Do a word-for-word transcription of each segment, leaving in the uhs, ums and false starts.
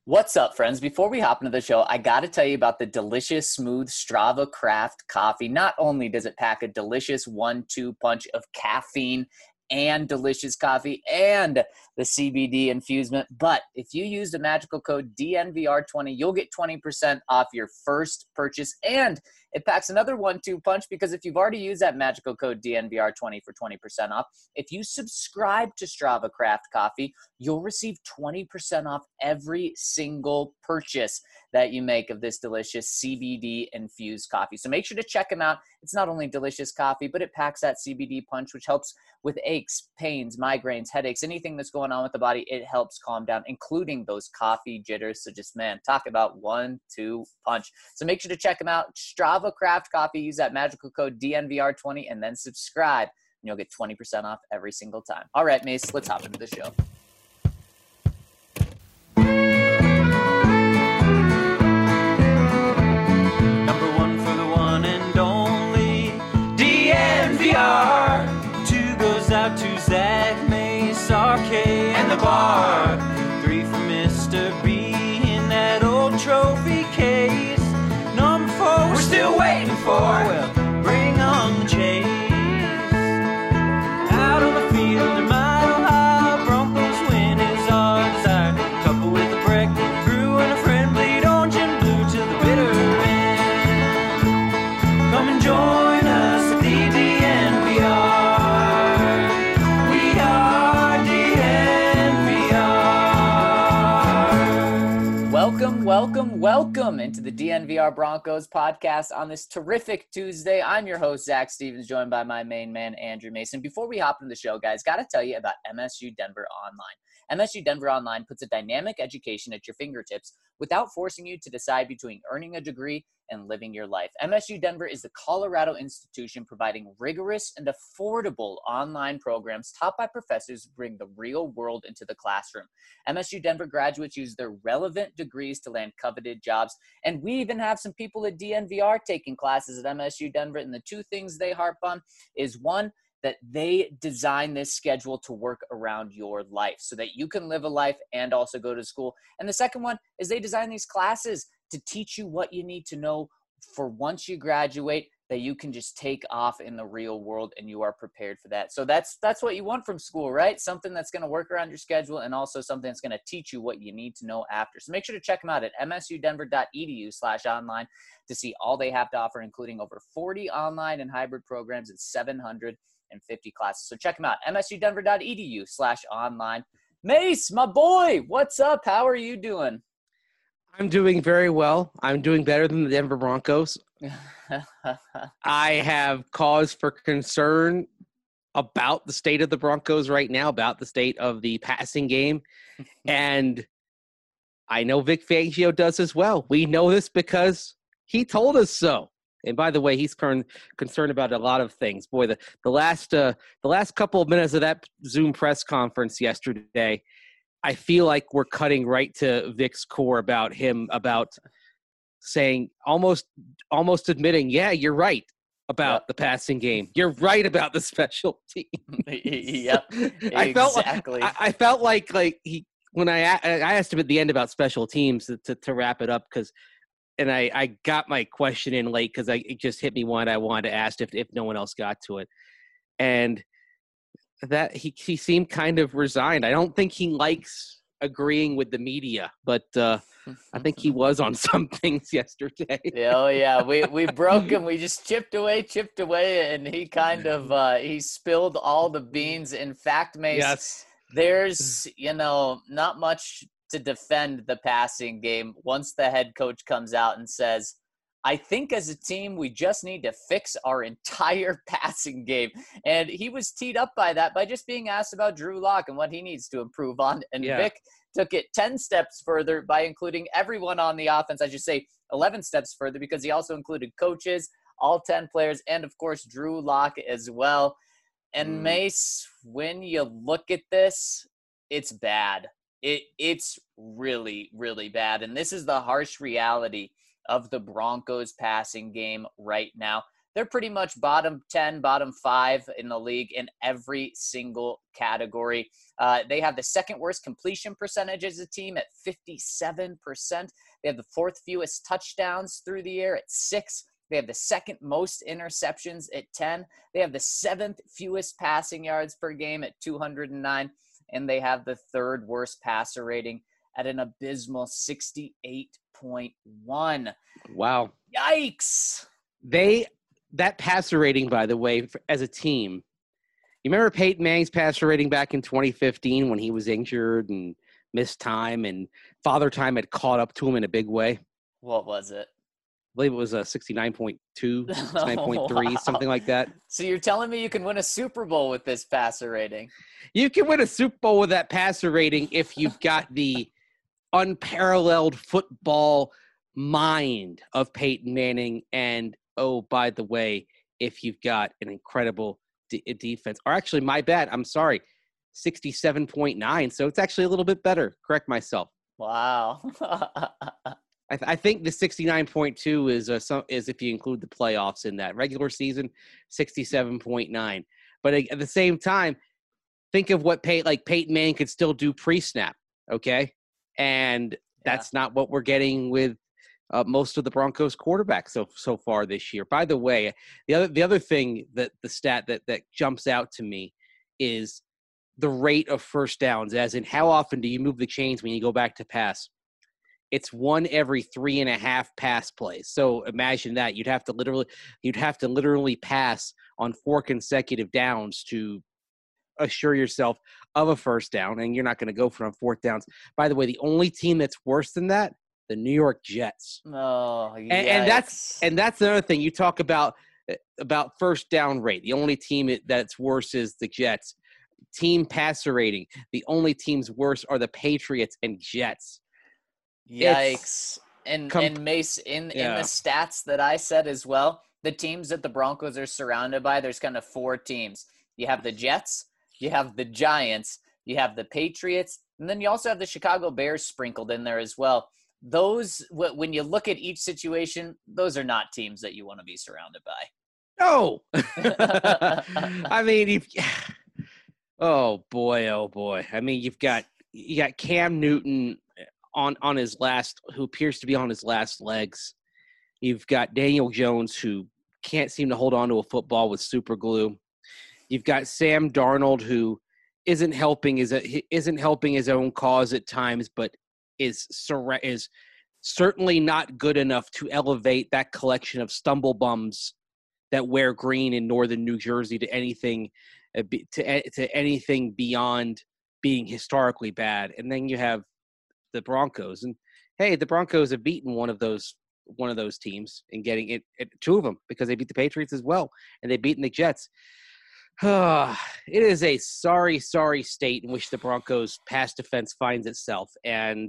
What's up, friends? Before we hop into the show, I got to tell you about the delicious, smooth Strava Craft coffee. Not only does it pack a delicious one two punch of caffeine and delicious coffee and the C B D infusement, but if you use the magical code D N V R twenty, you'll get twenty percent off your first purchase. And it packs another one two punch because if you've already used that magical code D N V R twenty for twenty percent off, if you subscribe to Strava Craft Coffee, you'll receive twenty percent off every single purchase that you make of this delicious C B D infused coffee. So make sure to check them out. It's not only delicious coffee, but it packs that C B D punch, which helps with aches, pains, migraines, headaches, anything that's going on with the body. It helps calm down, including those coffee jitters. So just, man, talk about one two punch. So make sure to check them out. Strava Craft Coffee. Use that magical code D N V R twenty and then subscribe, and you'll get twenty percent off every single time. All right, Mace, let's hop into the show. Number one for the one and only D N V R. Two goes out to Zach, Mace, R K, and the bar. Three for Mister B in that old trophy case. Number four we're still waiting for. Well, bring on the chase. Out on the field in Mile High, Broncos win is our desire. Couple with a break, brew and a friend, bleed orange and blue to the bitter end. Come and join us at the D N V R. We are D N V R. Welcome, welcome, welcome into the D N V R Broncos podcast on this terrific Tuesday. I'm your host, Zach Stevens, joined by my main man, Andrew Mason. Before we hop into the show, guys, got to tell you about M S U Denver Online. M S U Denver Online puts a dynamic education at your fingertips without forcing you to decide between earning a degree and living your life. M S U Denver is the Colorado institution providing rigorous and affordable online programs taught by professors who bring the real world into the classroom. M S U Denver graduates use their relevant degrees to land coveted jobs, and we even have some people at D N V R taking classes at M S U Denver, and the two things they harp on is, one, that they design this schedule to work around your life so that you can live a life and also go to school. And the second one is they design these classes to teach you what you need to know for once you graduate, that you can just take off in the real world and you are prepared for that. So that's that's what you want from school, right? Something that's going to work around your schedule and also something that's going to teach you what you need to know after. So make sure to check them out at msudenver.edu slash online to see all they have to offer, including over forty online and hybrid programs and seven hundred fifty classes. So check them out, msudenver.edu slash online. Mace, my boy, what's up? How are you doing? I'm doing very well. I'm doing better than the Denver Broncos. I have cause for concern about the state of the Broncos right now, about the state of the passing game. And I know Vic Fangio does as well. We know this because he told us so. And by the way, he's con- concerned about a lot of things. Boy, the, the last uh, the last couple of minutes of that Zoom press conference yesterday, I feel like we're cutting right to Vic's core about him, about saying, almost almost admitting, yeah, you're right about yep. the passing game. You're right about the special teams. Yep, I felt exactly. Like, I, I felt like like he when I I asked him at the end about special teams to to, to wrap it up, because. And I, I got my question in late because I it just hit me one I wanted to ask if if no one else got to it, and that he he seemed kind of resigned. I don't think he likes agreeing with the media, but uh, I think he was on some things yesterday. Oh yeah, we we broke him. We just chipped away, chipped away, and he kind of uh, he spilled all the beans. In fact, Mace, yes. there's you know not much to defend the passing game once the head coach comes out and says, I think as a team, we just need to fix our entire passing game. And he was teed up by that by just being asked about Drew Lock and what he needs to improve on. And yeah. Vic took it ten steps further by including everyone on the offense. I should say eleven steps further, because he also included coaches, all ten players, and of course, Drew Lock as well. And mm. Mace, when you look at this, it's bad. It It's really, really bad. And this is the harsh reality of the Broncos passing game right now. they're pretty much bottom ten, bottom five in the league in every single category. Uh, they have the second worst completion percentage as a team at fifty-seven percent. They have the fourth fewest touchdowns through the air at six. They have the second most interceptions at ten. They have the seventh fewest passing yards per game at two hundred nine. And they have the third worst passer rating at an abysmal sixty-eight point one. Wow. Yikes. They, that passer rating, by the way, for, as a team, you remember Peyton Manning's passer rating back in twenty fifteen when he was injured and missed time and Father Time had caught up to him in a big way? What was it? I believe it was a sixty-nine point two, sixty-nine point three, oh, wow. Something like that. So you're telling me you can win a Super Bowl with this passer rating? You can win a Super Bowl with that passer rating if you've got the unparalleled football mind of Peyton Manning. And, oh, by the way, if you've got an incredible de- defense. Or actually, my bad. I'm sorry. sixty-seven point nine. So it's actually a little bit better. Correct myself. Wow. I, th- I think the sixty-nine point two is uh, some, is if you include the playoffs in that. Regular season, sixty-seven point nine. But at the same time, think of what Pey- like Peyton Manning could still do pre-snap, okay? And that's yeah. not what we're getting with uh, most of the Broncos quarterbacks so so far this year. By the way, the other the other thing that the stat that that jumps out to me is the rate of first downs, as in how often do you move the chains when you go back to pass? It's one every three and a half pass plays. So imagine that you'd have to literally, you'd have to literally pass on four consecutive downs to assure yourself of a first down, and you're not going to go for on fourth downs. By the way, the only team that's worse than that, the New York Jets. Oh, and, and that's and that's another thing you talk about about first down rate. The only team that's worse is the Jets. Team passer rating. The only teams worse are the Patriots and Jets. Yikes. It's and com- and Mace, in, yeah. in the stats that I said as well, the teams that the Broncos are surrounded by, there's kind of four teams. You have the Jets, you have the Giants, you have the Patriots, and then you also have the Chicago Bears sprinkled in there as well. Those, when you look at each situation, those are not teams that you want to be surrounded by. No. I mean, you've, oh boy, oh boy. I mean, you've got you got Cam Newton on on his last, who appears to be on his last legs. You've got Daniel Jones, who can't seem to hold on to a football with super glue. You've got Sam Darnold, who isn't helping his isn't helping his own cause at times, but is is certainly not good enough to elevate that collection of stumble bums that wear green in northern New Jersey to anything to to anything beyond being historically bad. And then you have the Broncos, and hey, the Broncos have beaten one of those one of those teams in getting it, it two of them, because they beat the Patriots as well, and they've beaten the Jets. It is a sorry, sorry state in which the Broncos' pass defense finds itself. And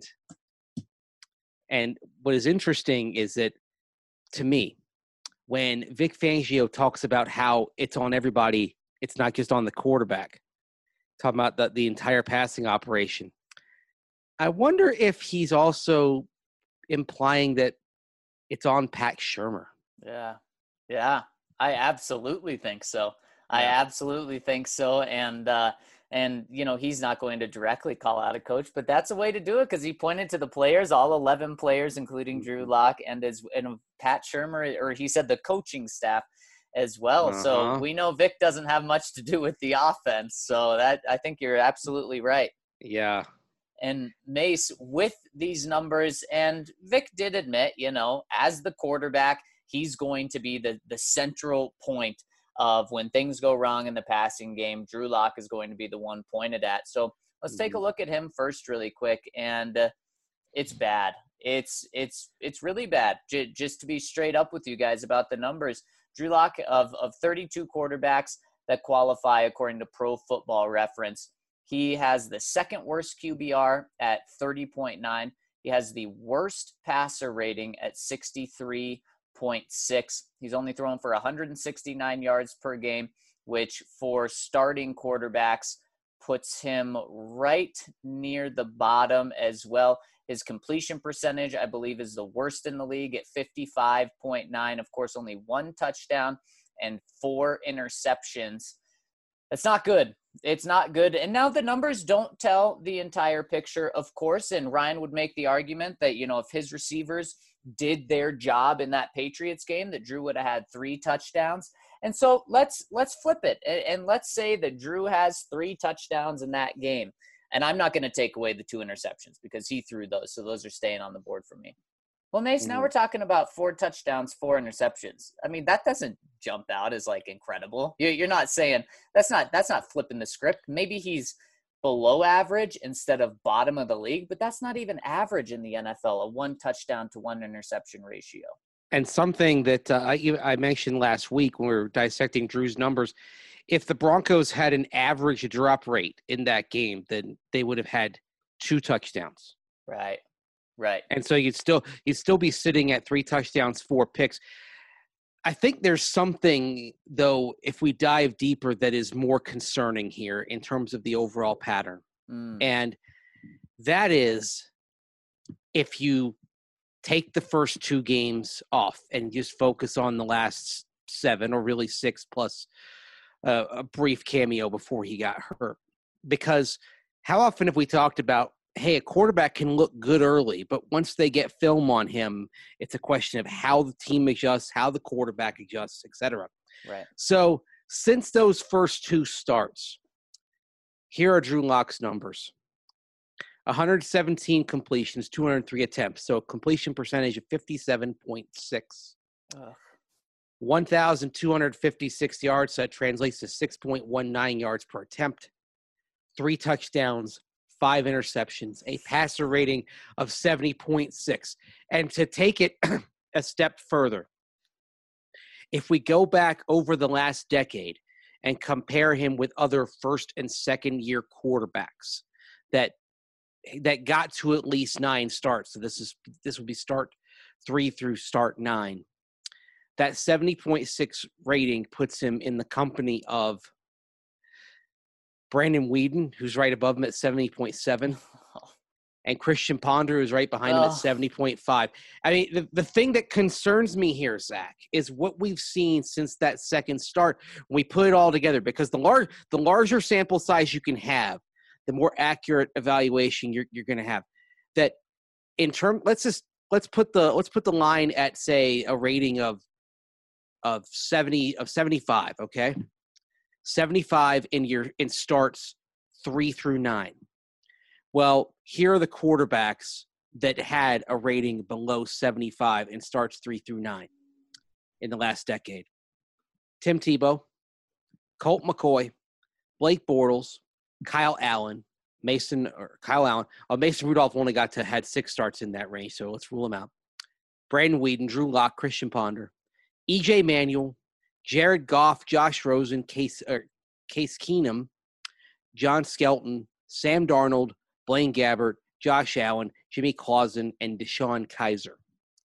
and what is interesting is that, to me, when Vic Fangio talks about how it's on everybody, it's not just on the quarterback, talking about the, the entire passing operation, I wonder if he's also implying that it's on Pat Shurmur. Yeah. Yeah. I absolutely think so. I Yeah. absolutely think so. And, uh, and, you know, he's not going to directly call out a coach, but that's a way to do it, because he pointed to the players, all eleven players, including Drew Lock and his, and Pat Shurmur, or he said the coaching staff as well. Uh-huh. So we know Vic doesn't have much to do with the offense. So that, I think you're absolutely right. Yeah. And Mace, with these numbers, and Vic did admit, you know, as the quarterback, he's going to be the, the central point of when things go wrong in the passing game. Drew Lock is going to be the one pointed at. So let's take a look at him first really quick. And uh, it's bad. It's it's it's really bad. J- just to be straight up with you guys about the numbers, Drew Lock, of, of thirty-two quarterbacks that qualify according to Pro Football Reference, he has the second worst Q B R at thirty point nine. He has the worst passer rating at sixty-three point six. He's only thrown for one hundred sixty-nine yards per game, which for starting quarterbacks puts him right near the bottom as well. His completion percentage, I believe, is the worst in the league at fifty-five point nine. Of course, only one touchdown and four interceptions. It's not good. It's not good. And now the numbers don't tell the entire picture, of course. And Ryan would make the argument that, you know, if his receivers did their job in that Patriots game, that Drew would have had three touchdowns. And so let's let's flip it. And, and let's say that Drew has three touchdowns in that game. And I'm not going to take away the two interceptions because he threw those. So those are staying on the board for me. Well, Mace, mm-hmm. now we're talking about four touchdowns, four interceptions. I mean, that doesn't jump out as like incredible. You're not saying that's not that's not flipping the script. Maybe he's below average instead of bottom of the league, but that's not even average in the N F L, a one touchdown to one interception ratio. And something that uh, I, I mentioned last week when we were dissecting Drew's numbers, if the Broncos had an average drop rate in that game, then they would have had two touchdowns. Right. Right. And so you'd still you'd still be sitting at three touchdowns, four picks. I think there's something, though, if we dive deeper, that is more concerning here in terms of the overall pattern. Mm. And that is if you take the first two games off and just focus on the last seven or really six plus uh, a brief cameo before he got hurt. Because how often have we talked about, hey, a quarterback can look good early, but once they get film on him, it's a question of how the team adjusts, how the quarterback adjusts, et cetera. Right. So since those first two starts, here are Drew Lock's numbers. one hundred seventeen completions, two hundred three attempts, so a completion percentage of fifty-seven point six. Ugh. one thousand two hundred fifty-six yards, so that translates to six point one nine yards per attempt. Three touchdowns, five interceptions, a passer rating of seventy point six. And to take it a step further, if we go back over the last decade and compare him with other first and second year quarterbacks that that got to at least nine starts, so this is this would be start three through start nine, that seventy point six rating puts him in the company of Brandon Weeden, who's right above him at seventy point seven, and Christian Ponder, who's right behind him oh. at seventy point five. I mean, the, the thing that concerns me here, Zach, is what we've seen since that second start when we put it all together, because the, lar- the larger sample size you can have, the more accurate evaluation you're, you're going to have. That in term, let's just let's put the let's put the line at, say, a rating of of seventy of seventy-five, okay? seventy-five in your in starts three through nine. Well, here are the quarterbacks that had a rating below seventy-five in starts three through nine in the last decade. Tim Tebow, Colt McCoy, Blake Bortles, Kyle Allen, Mason or Kyle Allen. Uh, Mason Rudolph only got to had six starts in that range, so let's rule him out. Brandon Weeden, Drew Lock, Christian Ponder, E J Manuel, Jared Goff, Josh Rosen, Case, or Case Keenum, John Skelton, Sam Darnold, Blaine Gabbert, Josh Allen, Jimmy Clausen, and Deshaun Kaiser.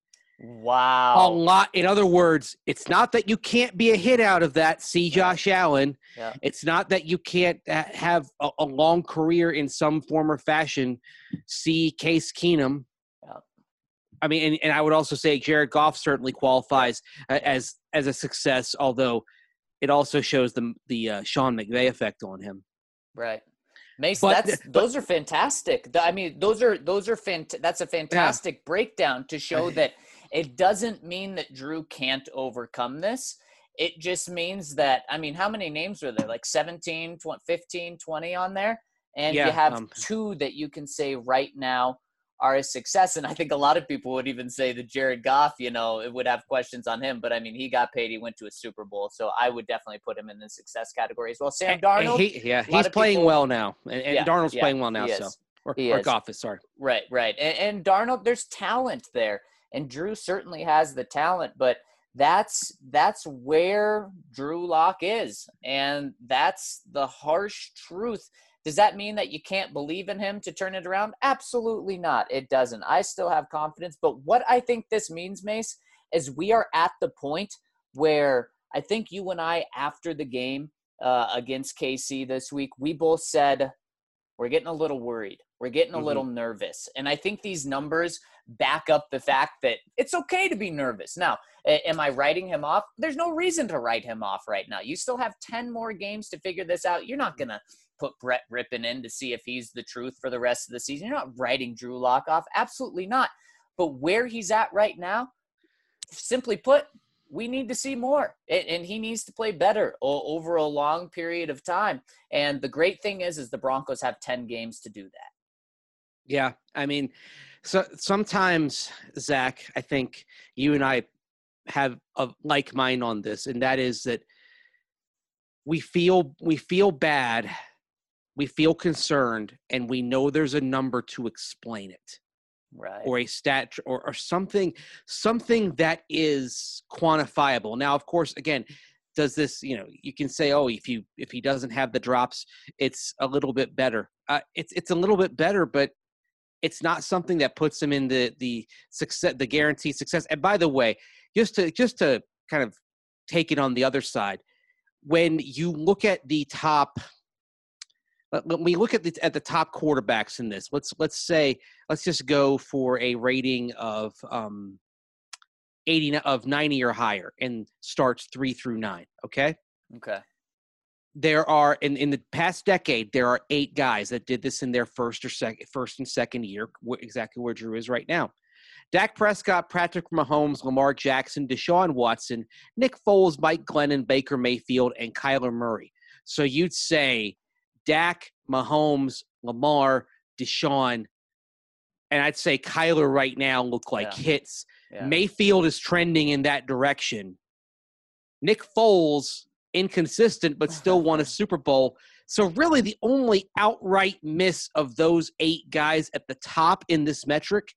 Wow. A lot. In other words, it's not that you can't be a hit out of that, see Josh yeah. Allen. Yeah. It's not that you can't have a, a long career in some form or fashion, see Case Keenum. Yeah. I mean, and, and I would also say Jared Goff certainly qualifies uh, as as a success, although it also shows the the uh, Sean McVay effect on him. Right. Mason, but, that's but, those are fantastic. I mean, those are those are fant- that's a fantastic yeah. breakdown to show that it doesn't mean that Drew can't overcome this. It just means that, I mean, how many names are there? Like seventeen, twenty, fifteen, twenty on there? And yeah, you have um, two that you can say right now are a success. And I think a lot of people would even say that Jared Goff, you know, it would have questions on him. But, I mean, he got paid. He went to a Super Bowl. So I would definitely put him in the success category as well. Sam Darnold. He, yeah, he's playing people, well now. And, and yeah, Darnold's yeah, playing well now. So Or, or Goff is, sorry. Right, right. And, and Darnold, there's talent there. And Drew certainly has the talent. But that's that's where Drew Lock is. And that's the harsh truth. Does that mean that you can't believe in him to turn it around? Absolutely not. It doesn't. I still have confidence. But what I think this means, Mace, is we are at the point where I think you and I, after the game uh, against K C this week, we both said we're getting a little worried. We're getting a Mm-hmm. little nervous. And I think these numbers back up the fact that it's okay to be nervous. Now, am I writing him off? There's no reason to write him off right now. You still have ten more games to figure this out. You're not going to put Brett Rippon in to see if he's the truth for the rest of the season. You're not writing Drew Lock off. Absolutely not. But where he's at right now, simply put, we need to see more, and he needs to play better over a long period of time. And the great thing is, is the Broncos have ten games to do that. Yeah, I mean, so sometimes, Zach, I think you and I have a like mind on this, and that is that we feel we feel bad, we feel concerned, and we know there's a number to explain it. Right. Or a stat or, or something, something that is quantifiable. Now, of course, again, does this, you know, you can say, oh, if you, if he doesn't have the drops, it's a little bit better. Uh, it's, it's a little bit better, but it's not something that puts him in the, the success, the guaranteed success. And by the way, just to, just to kind of take it on the other side, when you look at the top, when we look at the at the top quarterbacks in this, let's let's say let's just go for a rating of um, eighty of ninety or higher, and starts three through nine. Okay. Okay. There are in in the past decade, there are eight guys that did this in their first or second first and second year, exactly where Drew is right now. Dak Prescott, Patrick Mahomes, Lamar Jackson, Deshaun Watson, Nick Foles, Mike Glennon, Baker Mayfield, and Kyler Murray. So you'd say Dak, Mahomes, Lamar, Deshaun, and I'd say Kyler right now look like yeah. hits. Yeah. Mayfield is trending in that direction. Nick Foles, inconsistent, but still won a Super Bowl. So really the only outright miss of those eight guys at the top in this metric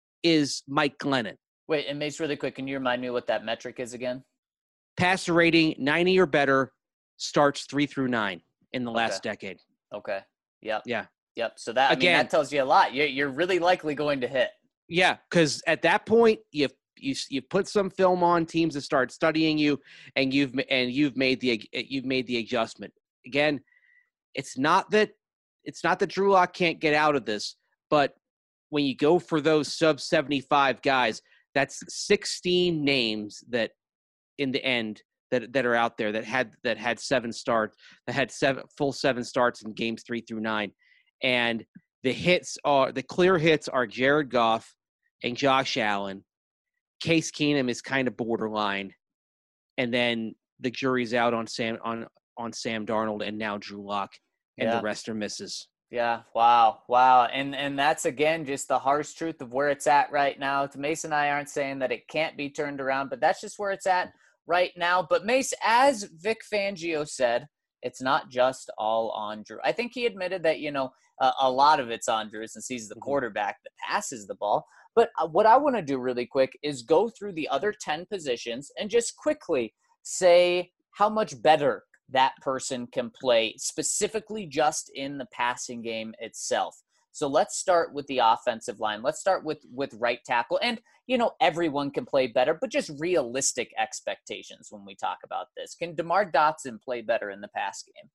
is Mike Glennon. Wait, and Mace, really quick, can you remind me what that metric is again? Passer rating, ninety or better, starts three through nine. In the last okay. decade. Okay. Yep. Yeah. Yep. So that, I Again, mean, that tells you a lot. You're, you're really likely going to hit. Yeah. Cause at that point you've, you, you've put some film on teams that start studying you and you've, and you've made the, you've made the adjustment. Again, it's not that, it's not that Drew Lock can't get out of this, but when you go for those sub seventy-five guys, that's sixteen names that in the end, That, that are out there that had that had seven starts, that had seven full seven starts in games three through nine, and the hits are the clear hits are Jared Goff and Josh Allen. Case Keenum is kind of borderline, and then the jury's out on Sam on on Sam Darnold and now Drew Lock, and yeah. the rest are misses. Yeah. Wow. Wow. And and that's again just the harsh truth of where it's at right now. Mace and I aren't saying that it can't be turned around, but that's just where it's at right now. But Mace, as Vic Fangio said, it's not just all on Drew. I think he admitted that, you know, uh, a lot of it's on Drew since he's the quarterback that passes the ball. But uh, what I want to do really quick is go through the other ten positions and just quickly say how much better that person can play, specifically just in the passing game itself. So let's start with the offensive line. Let's start with, with right tackle. And, you know, everyone can play better, but just realistic expectations when we talk about this. Can DeMar Dotson play better in the pass game?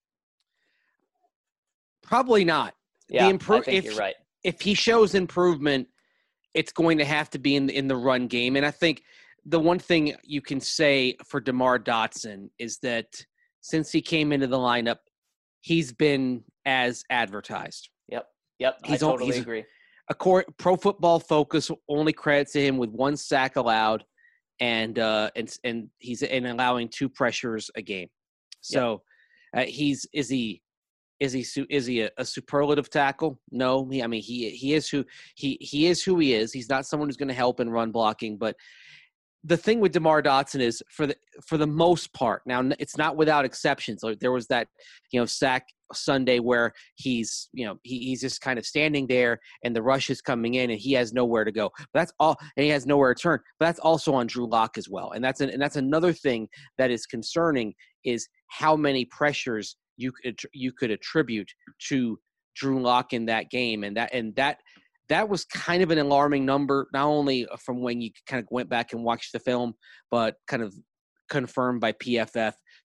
Probably not. Yeah, the impro- I think if, you're right. If he shows improvement, it's going to have to be in, in the run game. And I think the one thing you can say for DeMar Dotson is that since he came into the lineup, he's been as advertised. Yep. Yep. He's I totally he's, agree. A core, Pro Football Focus only credits him with one sack allowed, and uh, and and he's in allowing two pressures a game. So yep. uh, he's is he is he is he a, a superlative tackle? No, he, I mean he he is who he he is who he is. He's not someone who's going to help in run blocking, but the thing with DeMar Dotson is for the for the most part, now it's not without exceptions. Like there was that, you know, sack Sunday where he's, you know, he, he's just kind of standing there and the rush is coming in and he has nowhere to go. But that's all, and he has nowhere to turn. But that's also on Drew Lock as well. And that's an, and that's another thing that is concerning is how many pressures you could you could attribute to Drew Lock in that game, and that and that. That was kind of an alarming number, not only from when you kind of went back and watched the film, but kind of confirmed by P F F.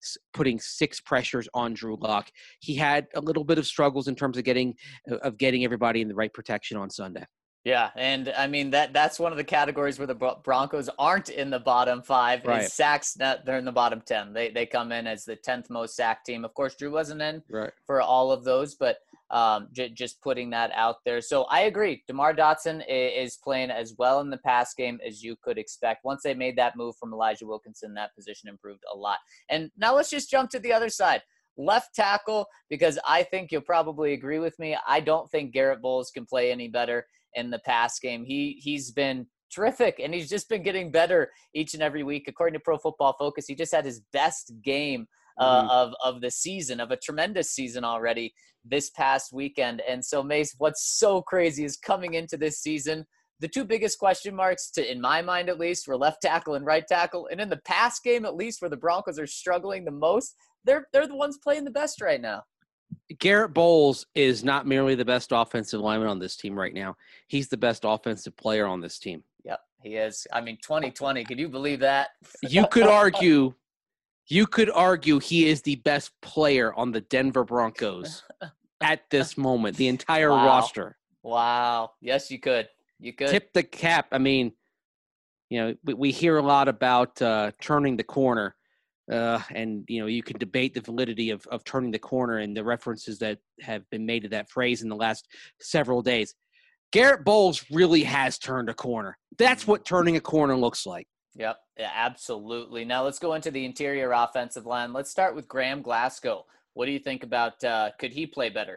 putting six pressures on Drew Lock. He had a little bit of struggles in terms of getting of getting everybody in the right protection on Sunday. Yeah, and I mean that that's one of the categories where the Broncos aren't in the bottom five. Right. Is sacks. They're in the bottom ten. They they come in as the tenth most sack team. Of course, Drew wasn't in right. for all of those, but um, j- just putting that out there. So I agree. DeMar Dotson is, is playing as well in the pass game as you could expect. Once they made that move from Elijah Wilkinson, that position improved a lot. And now let's just jump to the other side. Left tackle, because I think you'll probably agree with me. I don't think Garrett Bowles can play any better in the pass game. He, he's been terrific, and he's just been getting better each and every week. According to Pro Football Focus, he just had his best game uh, mm-hmm. of, of the season, of a tremendous season already this past weekend. And so, Mace, what's so crazy is coming into this season, the two biggest question marks, to in my mind at least, were left tackle and right tackle. And in the pass game, at least, where the Broncos are struggling the most, they're they're the ones playing the best right now. Garrett Bowles is not merely the best offensive lineman on this team right now. He's the best offensive player on this team. Yep, he is. I mean, twenty twenty, can you believe that? You could argue, you could argue he is the best player on the Denver Broncos at this moment, the entire wow. roster. Wow. Yes, you could. You could. Tip the cap. I mean, you know, we, we hear a lot about uh, turning the corner. Uh, and, you know, you can debate the validity of, of turning the corner and the references that have been made to that phrase in the last several days. Garrett Bowles really has turned a corner. That's what turning a corner looks like. Yep, yeah, absolutely. Now let's go into the interior offensive line. Let's start with Graham Glasgow. What do you think about uh, could he play better?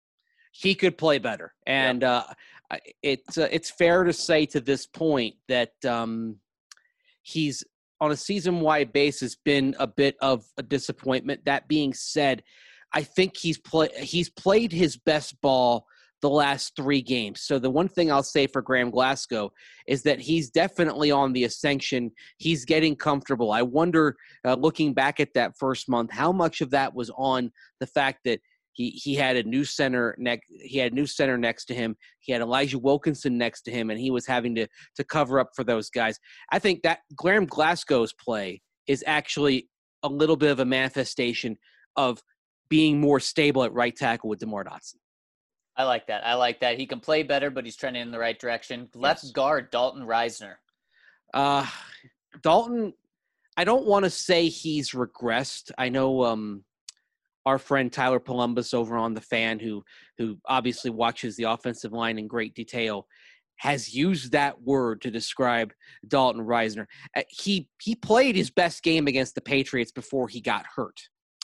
He could play better. And yep. uh, it's, uh, it's fair to say to this point that um, he's – on a season-wide basis, been a bit of a disappointment. That being said, I think he's play he's played his best ball the last three games. So the one thing I'll say for Graham Glasgow is that he's definitely on the ascension. He's getting comfortable. I wonder, uh, looking back at that first month, how much of that was on the fact that He he had a new center next. He had a new center next to him. He had Elijah Wilkinson next to him, and he was having to to cover up for those guys. I think that Graham Glasgow's play is actually a little bit of a manifestation of being more stable at right tackle with DeMar Dotson. I like that. I like that. He can play better, but he's trending in the right direction. Left yes. guard, Dalton Risner. Uh, Dalton, I don't want to say he's regressed. I know um, our friend Tyler Columbus over on The Fan, who who obviously watches the offensive line in great detail, has used that word to describe Dalton Risner. Uh, he he played his best game against the Patriots before he got hurt.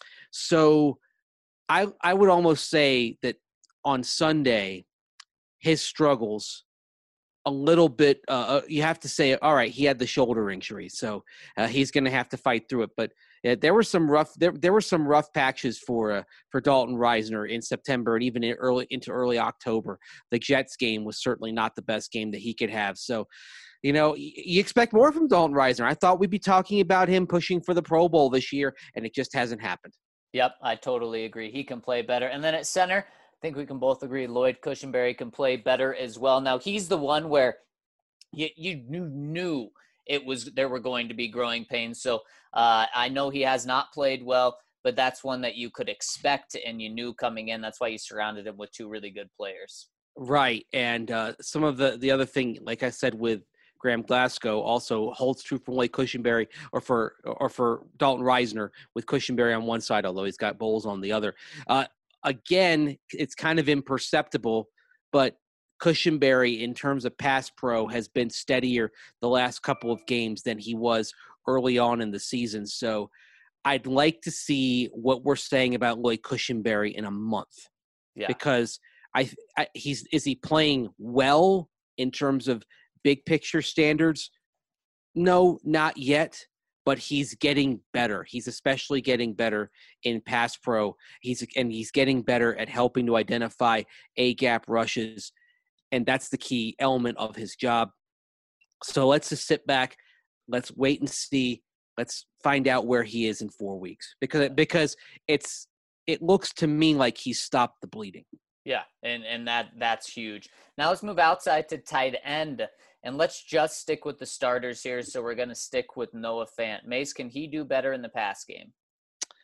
So I I would almost say that on Sunday, his struggles a little bit, uh, you have to say, all right, he had the shoulder injury, so uh, he's going to have to fight through it. But uh, there were some rough, there, there were some rough patches for uh, for Dalton Risner in September and even in early into early October. The Jets game was certainly not the best game that he could have. So, you know, y- you expect more from Dalton Risner. I thought we'd be talking about him pushing for the Pro Bowl this year, and it just hasn't happened. Yep, I totally agree. He can play better. And then at center, I think we can both agree Lloyd Cushenberry can play better as well. Now, he's the one where you, you knew, knew it was there were going to be growing pains. So uh, I know he has not played well, but that's one that you could expect and you knew coming in. That's why you surrounded him with two really good players. Right. And uh, some of the, the other thing, like I said, with Graham Glasgow also holds true for Lloyd Cushenberry or for or for Dalton Risner with Cushenberry on one side, although he's got Bowles on the other. Uh, again, it's kind of imperceptible, but Cushenberry, in terms of pass pro, has been steadier the last couple of games than he was early on in the season. So I'd like to see what we're saying about Lloyd Cushenberry in a month. Yeah. Because I, I he's is he playing well in terms of big picture standards? No, not yet, but he's getting better. He's especially getting better in pass pro. He's and he's getting better at helping to identify A-gap rushes, and that's the key element of his job. So let's just sit back. Let's wait and see. Let's find out where he is in four weeks because because it's it looks to me like he's stopped the bleeding. Yeah, and, and that that's huge. Now let's move outside to tight end, and let's just stick with the starters here. So we're going to stick with Noah Fant. Mace, can he do better in the pass game?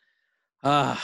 Uh,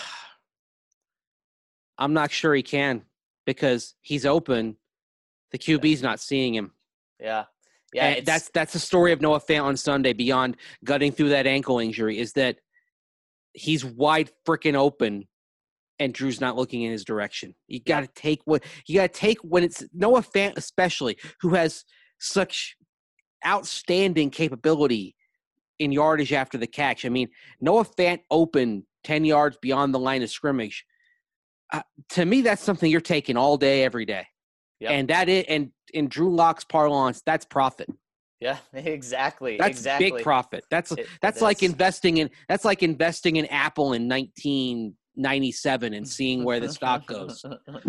I'm not sure he can because he's open. The Q B's not seeing him. Yeah. Yeah. And that's that's the story of Noah Fant on Sunday beyond gutting through that ankle injury is that he's wide freaking open and Drew's not looking in his direction. You got to yep. take what you got to take when it's Noah Fant, especially who has such outstanding capability in yardage after the catch. I mean, Noah Fant open ten yards beyond the line of scrimmage. Uh, to me, that's something you're taking all day, every day. Yep. And that is, and in Drew Lock's parlance, that's profit. Yeah, exactly. That's exactly. big profit. That's it, that's it like is. investing in that's like investing in Apple in nineteen ninety-seven and seeing where the stock goes.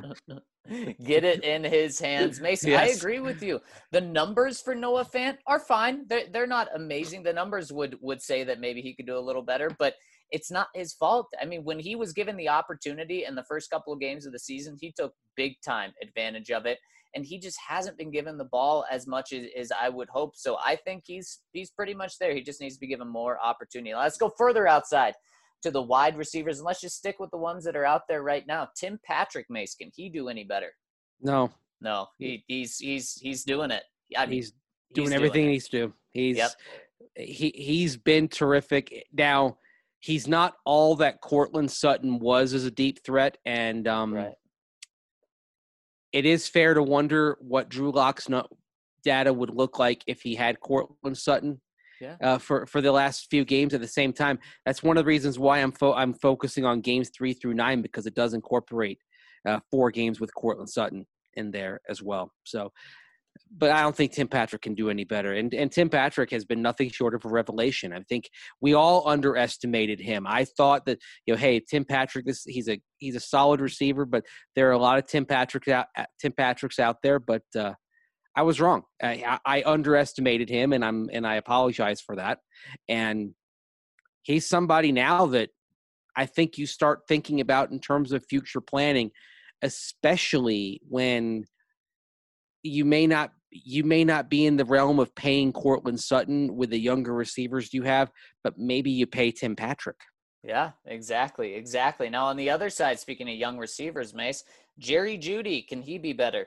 Get it in his hands. Mason, yes. I agree with you. The numbers for Noah Fant are fine. They're, they're not amazing. The numbers would, would say that maybe he could do a little better, but it's not his fault. I mean, when he was given the opportunity in the first couple of games of the season, he took big time advantage of it. And he just hasn't been given the ball as much as, as I would hope. So I think he's he's pretty much there. He just needs to be given more opportunity. Let's go further outside to the wide receivers, and let's just stick with the ones that are out there right now. Tim Patrick, Mace, can he do any better? No. No, he, he's he's he's doing it. I mean, he's doing he's everything doing he needs to do. He's yep. he he's been terrific. Now, he's not all that Courtland Sutton was as a deep threat, and um, right. it is fair to wonder what Drew Lock's data would look like if he had Courtland Sutton. Yeah. Uh, for, for the last few games at the same time. That's one of the reasons why I'm fo- I'm focusing on games three through nine because it does incorporate uh, four games with Courtland Sutton in there as well. So, but I don't think Tim Patrick can do any better. And and Tim Patrick has been nothing short of a revelation. I think we all underestimated him. I thought that, you know, hey, Tim Patrick, this he's a he's a solid receiver, but there are a lot of Tim Patricks out Tim Patricks out there, but uh, I was wrong. I, I underestimated him, and I'm and I apologize for that. And he's somebody now that I think you start thinking about in terms of future planning, especially when you may not you may not be in the realm of paying Courtland Sutton with the younger receivers you have, but maybe you pay Tim Patrick. Yeah, exactly, exactly. Now on the other side, speaking of young receivers, Mace, Jerry Jeudy, can he be better?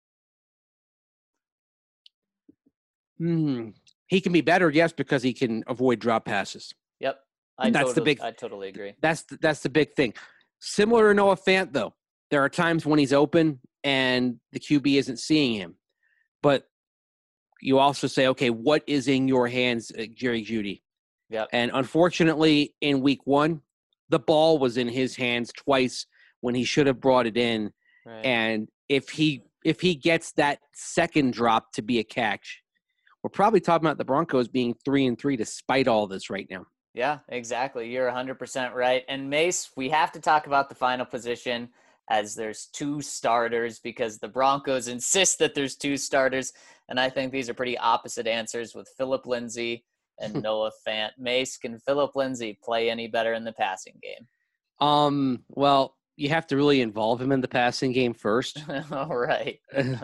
Hmm. He can be better, yes, because he can avoid drop passes. Yep, I that's totally, the big. I totally agree. That's the, that's the big thing. Similar to Noah Fant, though, there are times when he's open and the Q B isn't seeing him, but you also say, okay, what is in your hands, Jerry Jeudy? Yep. And unfortunately, in week one, the ball was in his hands twice when he should have brought it in. Right. And if he if he gets that second drop to be a catch, we're probably talking about the Broncos being three and three despite all this right now. Yeah, exactly. You're one hundred percent right. And Mace, we have to talk about the final position as there's two starters because the Broncos insist that there's two starters. And I think these are pretty opposite answers with Phillip Lindsay and Noah Fant. Mace, can Phillip Lindsay play any better in the passing game? Um. Well, you have to really involve him in the passing game first. All right.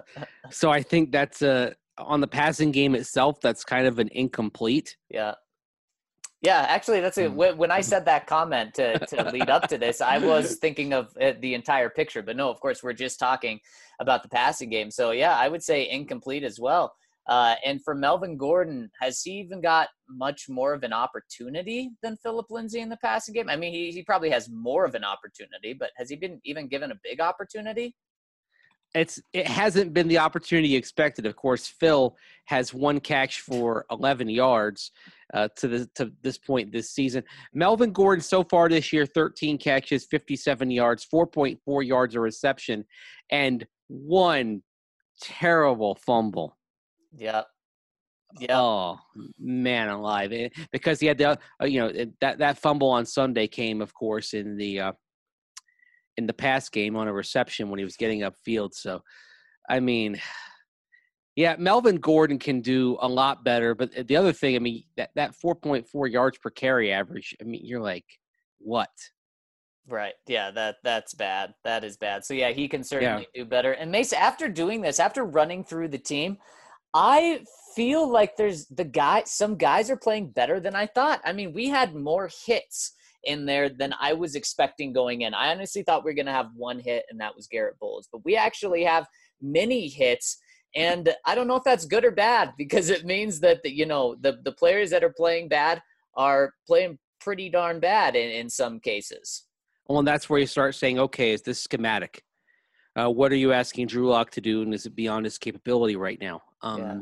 So I think that's a – on the passing game itself, that's kind of an incomplete. Yeah. Yeah, actually, that's a, when I said that comment to, to lead up to this, I was thinking of the entire picture. But no, of course, we're just talking about the passing game. So, yeah, I would say incomplete as well. Uh, and for Melvin Gordon, has he even got much more of an opportunity than Phillip Lindsay in the passing game? I mean, he, he probably has more of an opportunity, but has he been even given a big opportunity? It's it hasn't been the opportunity you expected. Of course, Phil has one catch for eleven yards uh, to the to this point this season. Melvin Gordon so far this year, thirteen catches, fifty-seven yards, four point four yards a reception, and one terrible fumble. Yep. Yeah. Oh man, alive! It, because he had the uh, you know it, that that fumble on Sunday came, of course, in the. Uh, in the pass game on a reception when he was getting upfield. So, I mean, yeah, Melvin Gordon can do a lot better. But the other thing, I mean, that, that four point four yards per carry average, I mean, you're like, what? Right. Yeah, that that's bad. That is bad. So, yeah, he can certainly yeah. do better. And Mace, after doing this, after running through the team, I feel like there's the guy, some guys are playing better than I thought. I mean, we had more hits in there than I was expecting going in. I honestly thought we were going to have one hit, and that was Garrett Bowles. But we actually have many hits, and I don't know if that's good or bad, because it means that, the, you know, the, the players that are playing bad are playing pretty darn bad in, in some cases. Well, and that's where you start saying, okay, is this schematic? Uh, what are you asking Drew Lock to do, and is it beyond his capability right now? Um, yeah.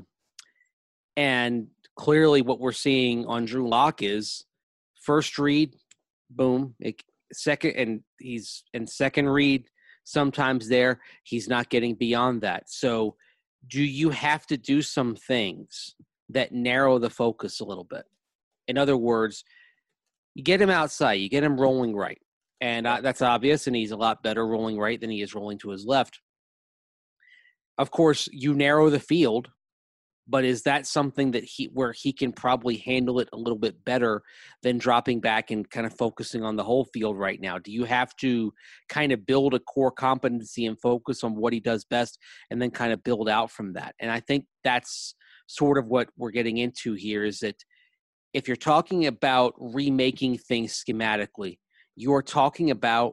And clearly what we're seeing on Drew Lock is first read, boom, it, second, and he's in second read sometimes there, he's not getting beyond that. So do you have to do some things that narrow the focus a little bit? In other words, you get him outside, you get him rolling right. And uh, that's obvious, and he's a lot better rolling right than he is rolling to his left. Of course, you narrow the field, but is that something that he where he can probably handle it a little bit better than dropping back and kind of focusing on the whole field right now? Do you have to kind of build a core competency and focus on what he does best and then kind of build out from that? And I think that's sort of what we're getting into here, is that if you're talking about remaking things schematically, you're talking about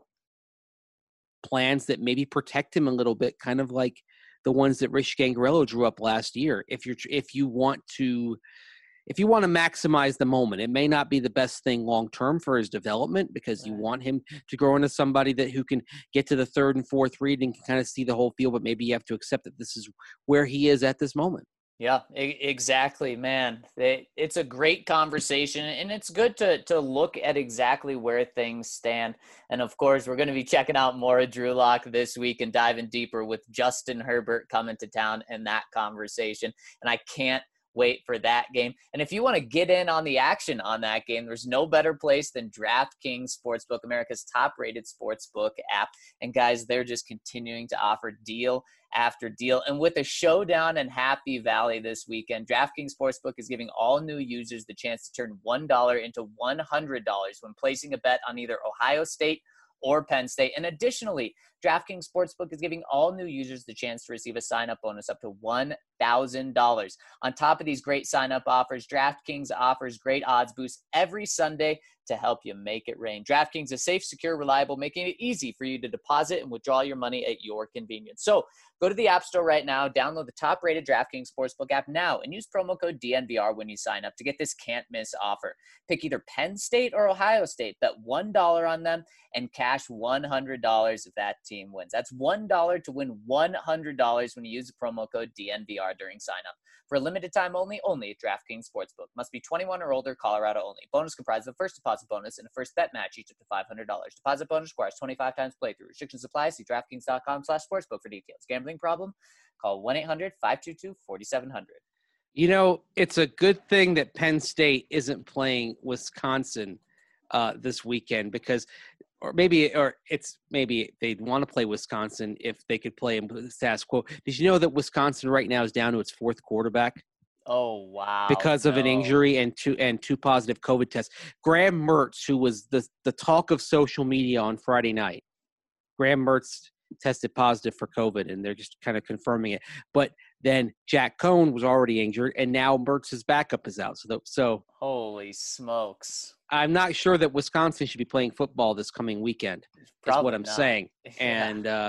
plans that maybe protect him a little bit, kind of like the ones that Rich Gangarello drew up last year. If you're, if you want to, if you want to maximize the moment, it may not be the best thing long-term for his development, because right. you want him to grow into somebody that who can get to the third and fourth read and can kind of see the whole field, but maybe you have to accept that this is where he is at this moment. Yeah, exactly, man. It's a great conversation, and it's good to to look at exactly where things stand. And, of course, we're going to be checking out more of Drew Lock this week and diving deeper with Justin Herbert coming to town in that conversation. And I can't wait for that game. And if you want to get in on the action on that game, there's no better place than DraftKings Sportsbook, America's top-rated sportsbook app. And, guys, they're just continuing to offer deal after deal. And with a showdown in Happy Valley this weekend, DraftKings Sportsbook is giving all new users the chance to turn one dollar into one hundred dollars when placing a bet on either Ohio State or Penn State. And additionally, DraftKings Sportsbook is giving all new users the chance to receive a sign-up bonus up to one thousand dollars. On top of these great sign-up offers, DraftKings offers great odds boosts every Sunday to help you make it rain. DraftKings is safe, secure, reliable, making it easy for you to deposit and withdraw your money at your convenience. So go to the App Store right now, download the top-rated DraftKings Sportsbook app now, and use promo code D N V R when you sign up to get this can't-miss offer. Pick either Penn State or Ohio State, bet one dollar on them, and cash one hundred dollars if that team wins. That's one dollar to win one hundred dollars when you use the promo code D N V R during sign-up. For a limited time only, only at DraftKings Sportsbook. Must be twenty-one or older, Colorado only. Bonus comprised of a first deposit bonus and a first bet match, each up to five hundred dollars. Deposit bonus requires twenty-five times playthrough. Restrictions apply. See DraftKings.com slash sportsbook for details. Gambling problem? Call one eight hundred five two two four seven zero zero. You know, it's a good thing that Penn State isn't playing Wisconsin uh, this weekend, because or maybe or it's maybe they'd want to play Wisconsin if they could play them with the status quo. Did you know that Wisconsin right now is down to its fourth quarterback? Oh, wow. Because of no. an injury and two and two positive COVID tests. Graham Mertz, who was the, the talk of social media on Friday night, Graham Mertz tested positive for COVID, and they're just kind of confirming it. But then Jack Cohn was already injured, and now Mertz's backup is out. So, the, so holy smokes. I'm not sure that Wisconsin should be playing football this coming weekend. That's what I'm not. saying. Yeah. And uh,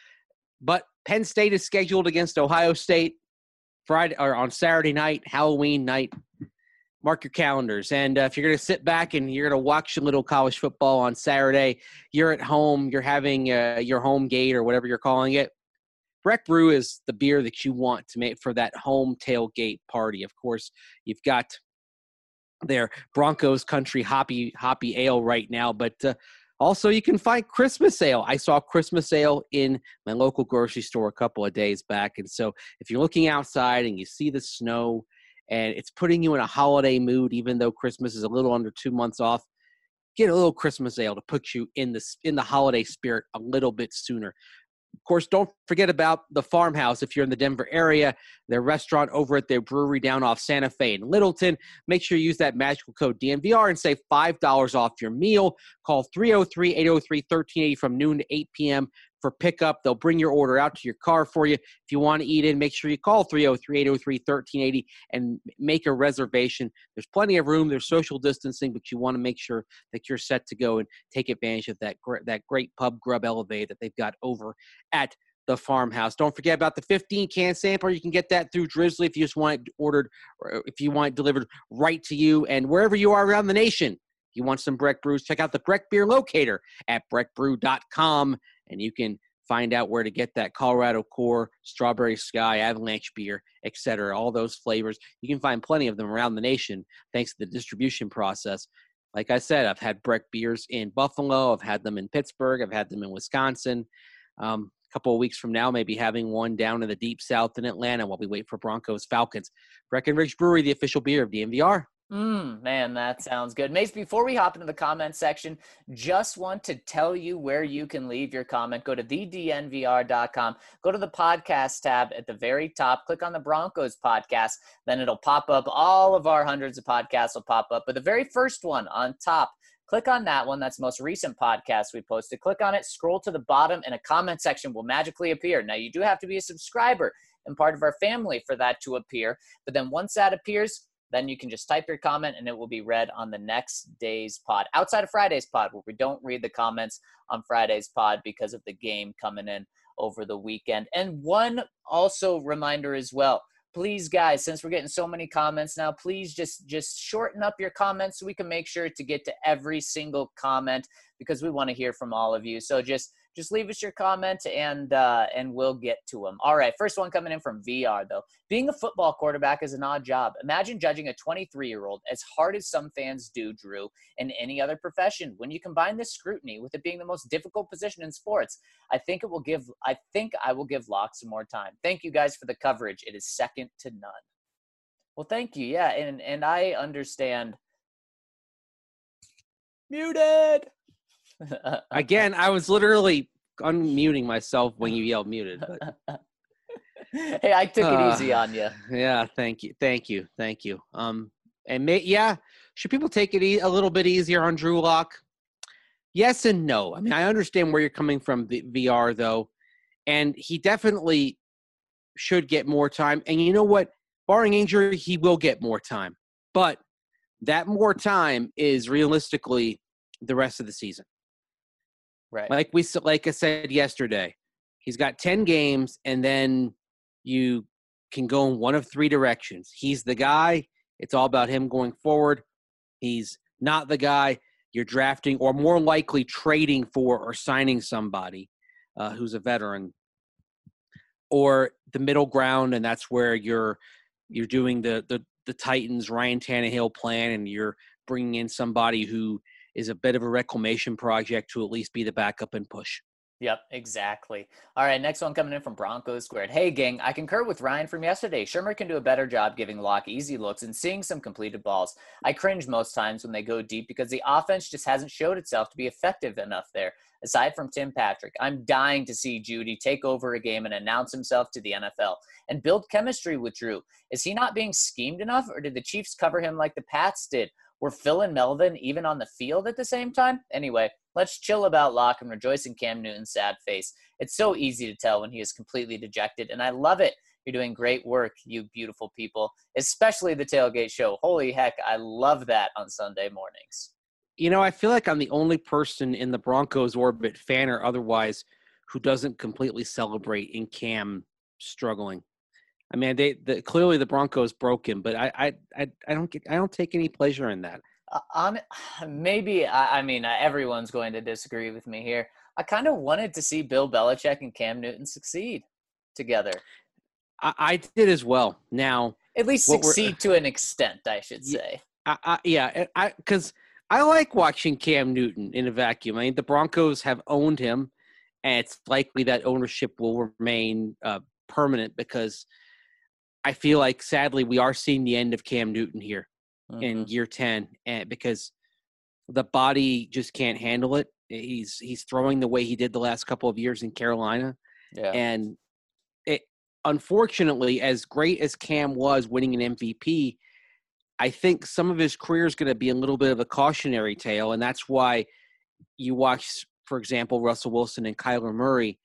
but Penn State is scheduled against Ohio State Friday or on Saturday night, Halloween night. Mark your calendars. And uh, if you're going to sit back and you're going to watch a little college football on Saturday, you're at home, you're having uh, your home gate or whatever you're calling it. Breck Brew is the beer that you want to make for that home tailgate party. Of course, you've got their Broncos Country Hoppy Hoppy Ale right now, but uh, also you can find Christmas Ale. I saw Christmas Ale in my local grocery store a couple of days back. And so if you're looking outside and you see the snow and it's putting you in a holiday mood, even though Christmas is a little under two months off, get a little Christmas Ale to put you in the, in the holiday spirit a little bit sooner. Of course, don't forget about the Farmhouse if you're in the Denver area, their restaurant over at their brewery down off Santa Fe in Littleton. Make sure you use that magical code D N V R and save five dollars off your meal. Call three oh three, eight oh three, one three eight zero from noon to eight p.m. for pickup. They'll bring your order out to your car for you. If you want to eat in, make sure you call three oh three, eight oh three, one three eight oh and make a reservation. There's plenty of room. There's social distancing, but you want to make sure that you're set to go and take advantage of that, gr- that great pub grub elevator that they've got over at the Farmhouse. Don't forget about the fifteen can sampler. You can get that through Drizzly if you just want it ordered, or if you want it delivered right to you. And wherever you are around the nation, if you want some Breck brews, check out the Breck Beer Locator at breck brew dot com, and you can find out where to get that Colorado Core, Strawberry Sky, Avalanche beer, et cetera. All those flavors. You can find plenty of them around the nation thanks to the distribution process. Like I said, I've had Breck beers in Buffalo. I've had them in Pittsburgh. I've had them in Wisconsin. Um, couple of weeks from now, maybe having one down in the deep south in Atlanta while we wait for Broncos Falcons. Breckenridge Brewery, the official beer of D N V R. Mm, man, that sounds good. Mace, before we hop into the comment section, just want to tell you where you can leave your comment. Go to the d n v r dot com. Go to the podcast tab at the very top. Click on the Broncos podcast. Then it'll pop up. All of our hundreds of podcasts will pop up. But the very first one on top, click on that one. That's the most recent podcast we posted. Click on it, scroll to the bottom, and a comment section will magically appear. Now, you do have to be a subscriber and part of our family for that to appear. But then once that appears, then you can just type your comment, and it will be read on the next day's pod. Outside of Friday's pod, where we don't read the comments on Friday's pod because of the game coming in over the weekend. And one also reminder as well. Please, guys, since we're getting so many comments now, please just, just shorten up your comments so we can make sure to get to every single comment, because we want to hear from all of you. So just just leave us your comment, and uh, and we'll get to them. All right, first one coming in from V R, though. Being a football quarterback is an odd job. Imagine judging a twenty-three-year-old as hard as some fans do, Drew, in any other profession. When you combine this scrutiny with it being the most difficult position in sports, I think it will give. I think I will give Locke some more time. Thank you guys for the coverage. It is second to none. Well, thank you. Yeah, and and I understand. Muted. Again, I was literally unmuting myself when you yelled muted. But, hey, I took it uh, easy on you. Yeah, thank you, thank you, thank you. Um, and may, yeah, should people take it e- a little bit easier on Drew Lock? Yes and no. I mean, I understand where you're coming from, the V R though, and he definitely should get more time. And you know what? Barring injury, he will get more time. But that more time is realistically the rest of the season. Right. Like we like I said yesterday, he's got ten games, and then you can go in one of three directions. He's the guy. It's all about him going forward. He's not the guy. You're drafting, or more likely trading for or signing somebody uh, who's a veteran, or the middle ground, and that's where you're you're doing the the the Titans Ryan Tannehill plan, and you're bringing in somebody who is a bit of a reclamation project to at least be the backup and push. Yep, exactly. All right, next one coming in from Broncos Squared. Hey, gang, I concur with Ryan from yesterday. Shermer can do a better job giving Locke easy looks and seeing some completed balls. I cringe most times when they go deep because the offense just hasn't showed itself to be effective enough there. Aside from Tim Patrick, I'm dying to see Judy take over a game and announce himself to the N F L and build chemistry with Drew. Is he not being schemed enough, or did the Chiefs cover him like the Pats did? Were Phil and Melvin even on the field at the same time? Anyway, let's chill about Locke and rejoice in Cam Newton's sad face. It's so easy to tell when he is completely dejected, and I love it. You're doing great work, you beautiful people, especially the Tailgate Show. Holy heck, I love that on Sunday mornings. You know, I feel like I'm the only person in the Broncos orbit, fan or otherwise, who doesn't completely celebrate in Cam struggling. I mean, they the, clearly the Broncos broke him, but I I I, I don't get I don't take any pleasure in that. Uh, on maybe I, I mean uh, everyone's going to disagree with me here. I kind of wanted to see Bill Belichick and Cam Newton succeed together. I, I did as well. Now, at least succeed to an extent, I should say. I, I, yeah, I because I like watching Cam Newton in a vacuum. I mean, the Broncos have owned him, and it's likely that ownership will remain uh, permanent because I feel like, sadly, we are seeing the end of Cam Newton here mm-hmm. in year ten, and because the body just can't handle it. He's he's throwing the way he did the last couple of years in Carolina, yeah. and it unfortunately, as great as Cam was winning an M V P, I think some of his career is going to be a little bit of a cautionary tale, and that's why you watch, for example, Russell Wilson and Kyler Murray.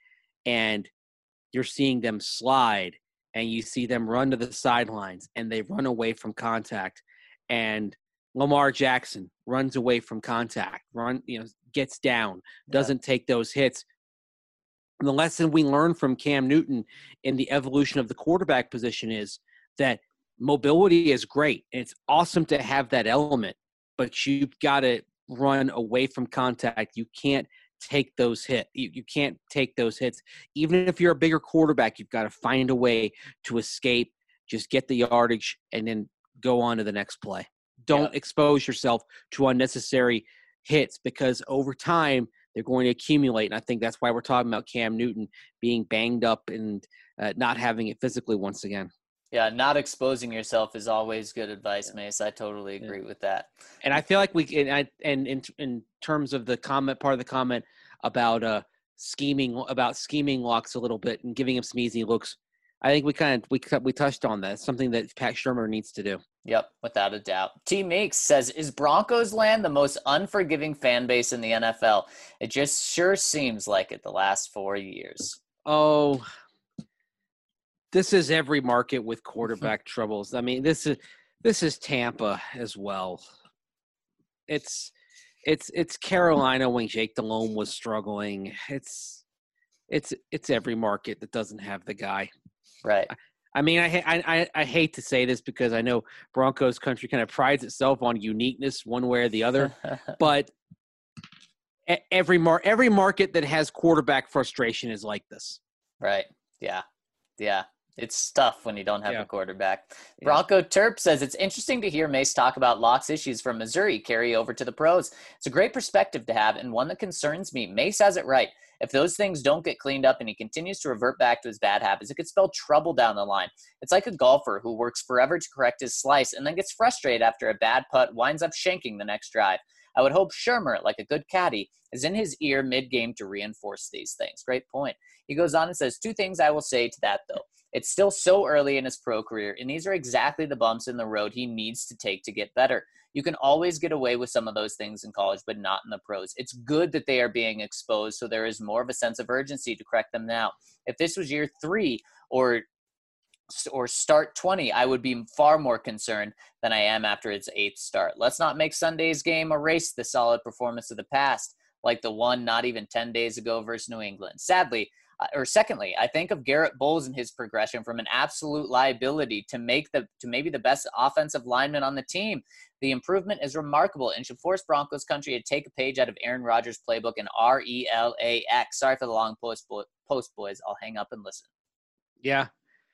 and you're seeing them slide, and you see them run to the sidelines, and they run away from contact, and Lamar Jackson runs away from contact, run, you know, gets down, doesn't yeah. take those hits. And the lesson we learned from Cam Newton in the evolution of the quarterback position is that mobility is great. And it's awesome to have that element, but you've got to run away from contact. You can't take those hits. You, you can't take those hits. Even if you're a bigger quarterback, you've got to find a way to escape, just get the yardage, and then go on to the next play. Don't yeah. expose yourself to unnecessary hits, because over time they're going to accumulate. And I think that's why we're talking about Cam Newton being banged up and uh, not having it physically once again. Yeah, not exposing yourself is always good advice, yeah. Mace. I totally agree yeah. with that. And I feel like we and I, and in in terms of the comment, part of the comment about uh scheming about scheming locks a little bit and giving him some easy looks, I think we kind of we we touched on that. It's something that Pat Shurmur needs to do. Yep, without a doubt. T Meeks says, is Broncos land the most unforgiving fan base in the N F L? It just sure seems like it the last four years. Oh, this is every market with quarterback troubles. I mean, this is this is Tampa as well. It's it's it's Carolina when Jake Delhomme was struggling. It's it's it's every market that doesn't have the guy. Right. I mean, I, I I hate to say this because I know Broncos country kind of prides itself on uniqueness one way or the other, but every mar- every market that has quarterback frustration is like this. Right. Yeah. Yeah. It's tough when you don't have yeah. a quarterback. Yeah. Bronco Terp says, it's interesting to hear Mace talk about Locke's issues from Missouri carry over to the pros. It's a great perspective to have and one that concerns me. Mace has it right. If those things don't get cleaned up and he continues to revert back to his bad habits, it could spell trouble down the line. It's like a golfer who works forever to correct his slice and then gets frustrated after a bad putt, winds up shanking the next drive. I would hope Shurmur, like a good caddy, is in his ear mid-game to reinforce these things. Great point. He goes on and says, two things I will say to that, though. It's still so early in his pro career, and these are exactly the bumps in the road he needs to take to get better. You can always get away with some of those things in college, but not in the pros. It's good that they are being exposed, so there is more of a sense of urgency to correct them now. If this was year three or or start twenty, I would be far more concerned than I am after its eighth start. Let's not make Sunday's game erase the solid performance of the past, like the one not even ten days ago versus New England. Sadly, uh, or secondly, I think of Garrett Bowles and his progression from an absolute liability to make the to maybe the best offensive lineman on the team. The improvement is remarkable and should force Broncos country to take a page out of Aaron Rodgers' playbook and R E L A X. Sorry for the long post, post boys. I'll hang up and listen. Yeah.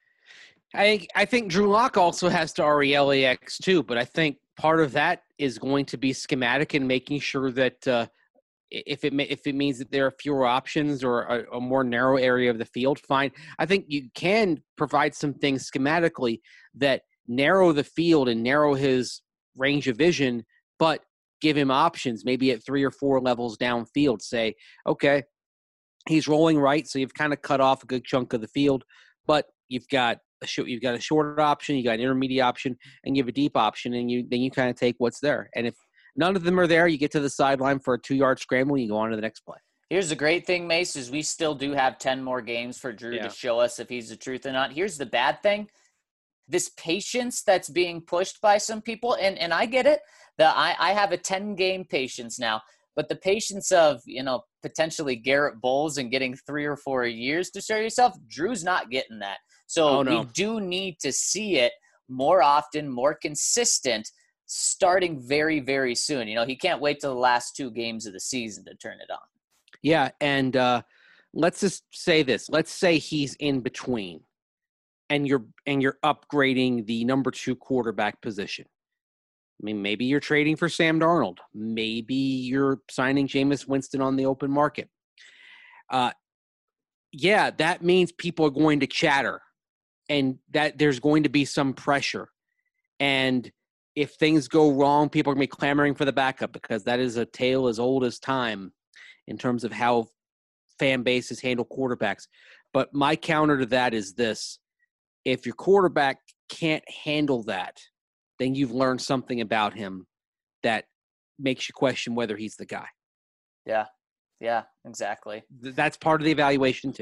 I I think Drew Lock also has to R E L A X too, but I think part of that is going to be schematic and making sure that uh, if it if it means that there are fewer options or a, a more narrow area of the field, fine. I think you can provide some things schematically that narrow the field and narrow his range of vision, but give him options maybe at three or four levels downfield. Say, okay, he's rolling right, so you've kind of cut off a good chunk of the field, but you've got a short, you've got a short option, you got an intermediate option, and you have a deep option, and you then you kind of take what's there. And if none of them are there, you get to the sideline for a two-yard scramble, and you go on to the next play. Here's the great thing, Mace, is we still do have ten more games for Drew yeah. to show us if he's the truth or not. Here's the bad thing. This patience that's being pushed by some people, and, and I get it, that I, I have a ten-game patience now, but the patience of, you know, potentially Garrett Bowles and getting three or four years to show yourself, Drew's not getting that. So oh, no. we do need to see it more often, more consistent, starting very, very soon. You know, he can't wait till the last two games of the season to turn it on. Yeah, and uh, let's just say this. Let's say he's in between, and you're and you're upgrading the number two quarterback position. I mean, maybe you're trading for Sam Darnold. Maybe you're signing Jameis Winston on the open market. Uh, yeah, that means people are going to chatter. And that there's going to be some pressure. And if things go wrong, people are going to be clamoring for the backup because that is a tale as old as time in terms of how fan bases handle quarterbacks. But my counter to that is this. If your quarterback can't handle that, then you've learned something about him that makes you question whether he's the guy. Yeah. Yeah, exactly. That's part of the evaluation too.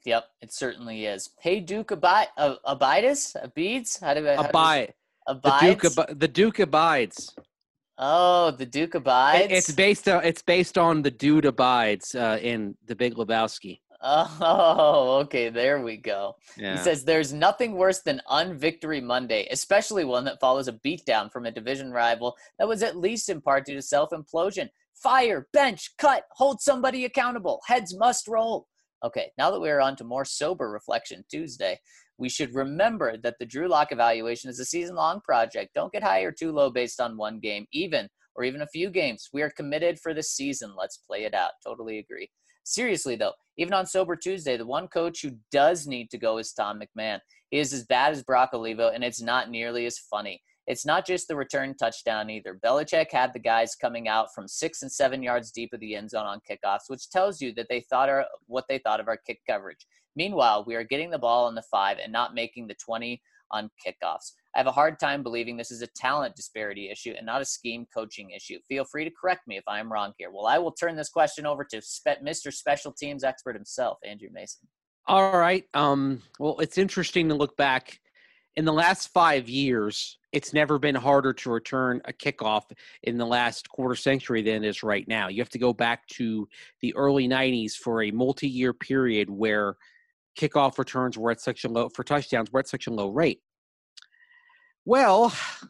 Yep, it certainly is. Hey, Duke Abi- uh, Abides? Abides? How do I? How Abide. does, The Duke, abides? ab- the Duke abides. Oh, the Duke It, abides? it's based on it's based on the dude abides uh, in The Big Lebowski. Oh, okay, there we go. Yeah. He says there's nothing worse than unvictory Monday, especially one that follows a beatdown from a division rival that was at least in part due to self-implosion. Fire, bench, cut, hold somebody accountable. Heads must roll. Okay, now that we're on to more sober reflection Tuesday, we should remember that the Drew Lock evaluation is a season-long project. Don't get high or too low based on one game, even, or even a few games. We are committed for the season. Let's play it out. Totally agree. Seriously, though, even on Sober Tuesday, the one coach who does need to go is Tom McMahon. He is as bad as Brock Olivo, and it's not nearly as funny. It's not just the return touchdown either. Belichick had the guys coming out from six and seven yards deep of the end zone on kickoffs, which tells you that they thought our, what they thought of our kick coverage. Meanwhile, we are getting the ball on the five and not making the twenty on kickoffs. I have a hard time believing this is a talent disparity issue and not a scheme coaching issue. Feel free to correct me if I'm wrong here. Well, I will turn this question over to spe- Mister Special Teams expert himself, Andrew Mason. All right. Um, well, it's interesting to look back. In the last five years, it's never been harder to return a kickoff in the last quarter century than it is right now. You have to go back to the early nineties for a multi-year period where kickoff returns were at such a low, for touchdowns were at such a low rate. Well,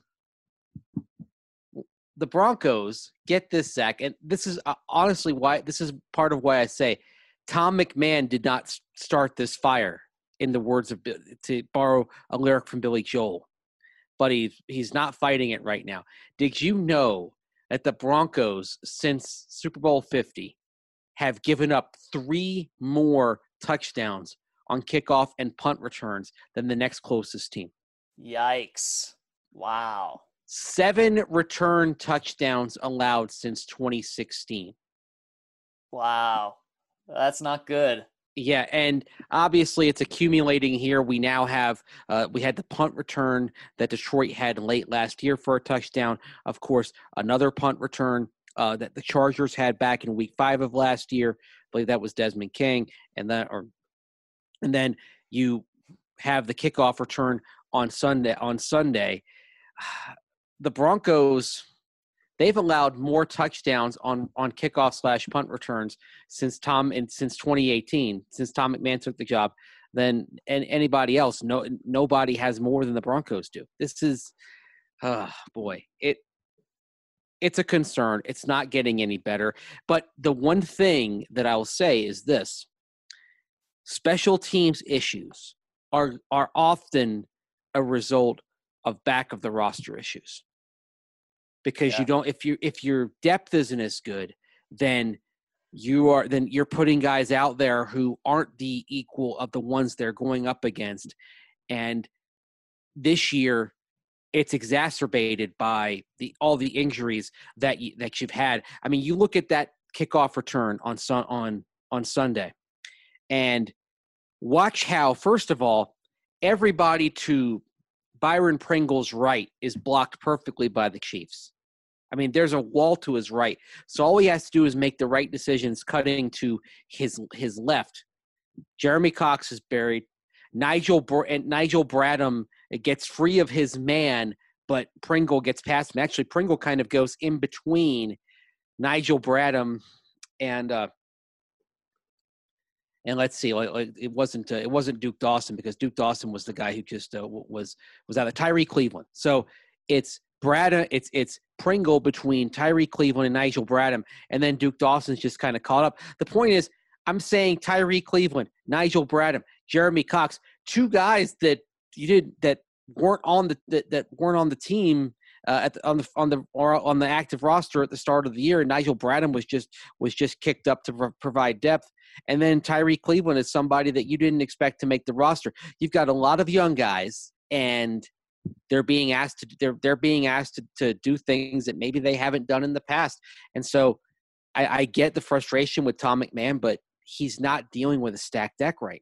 the Broncos get this, Zach, and this is uh, honestly why this is part of why I say Tom McMahon did not start this fire, in the words of, to borrow a lyric from Billy Joel, but he's he's not fighting it right now. Did you know that the Broncos since Super Bowl fifty have given up three more touchdowns on kickoff and punt returns than the next closest team? Yikes. Wow. Seven return touchdowns allowed since twenty sixteen. Wow. That's not good. Yeah, and obviously it's accumulating here. We now have uh, we had the punt return that Detroit had late last year for a touchdown. Of course, another punt return uh, that the Chargers had back in Week Five of last year. I believe that was Desmond King, and that or and then you have the kickoff return on Sunday. On Sunday, the Broncos, they've allowed more touchdowns on, on kickoff slash punt returns since Tom and since twenty eighteen, since Tom McMahon took the job, than and anybody else. No, nobody has more than the Broncos do. This is, oh boy, it it's a concern. It's not getting any better. But the one thing that I will say is this: special teams issues are are often a result of back of the roster issues. Because yeah. you don't, if you if your depth isn't as good, then you are then you're putting guys out there who aren't the equal of the ones they're going up against. And this year, it's exacerbated by the all the injuries that you, that you've had. I mean, you look at that kickoff return on on on Sunday, and watch how, first of all, everybody to Byron Pringle's right is blocked perfectly by the Chiefs. I mean, there's a wall to his right. So all he has to do is make the right decisions, cutting to his his left. Jeremy Cox is buried. Nigel Br- and Nigel Bradham gets free of his man, but Pringle gets past him. Actually, Pringle kind of goes in between Nigel Bradham and uh, and let's see, like, like it wasn't uh, it wasn't Duke Dawson, because Duke Dawson was the guy who just uh, was was out of Tyree Cleveland. So it's Bradham, it's it's Pringle between Tyree Cleveland and Nigel Bradham, and then Duke Dawson's just kind of caught up. The point is, I'm saying Tyree Cleveland, Nigel Bradham, Jeremy Cox, two guys that you did that weren't on the that, that weren't on the team uh, at the, on the on the or on the active roster at the start of the year. And Nigel Bradham was just was just kicked up to pro- provide depth, and then Tyree Cleveland is somebody that you didn't expect to make the roster. You've got a lot of young guys, and they're being asked to they're they're being asked to, to do things that maybe they haven't done in the past. And so I, I get the frustration with Tom McMahon, but he's not dealing with a stacked deck right now.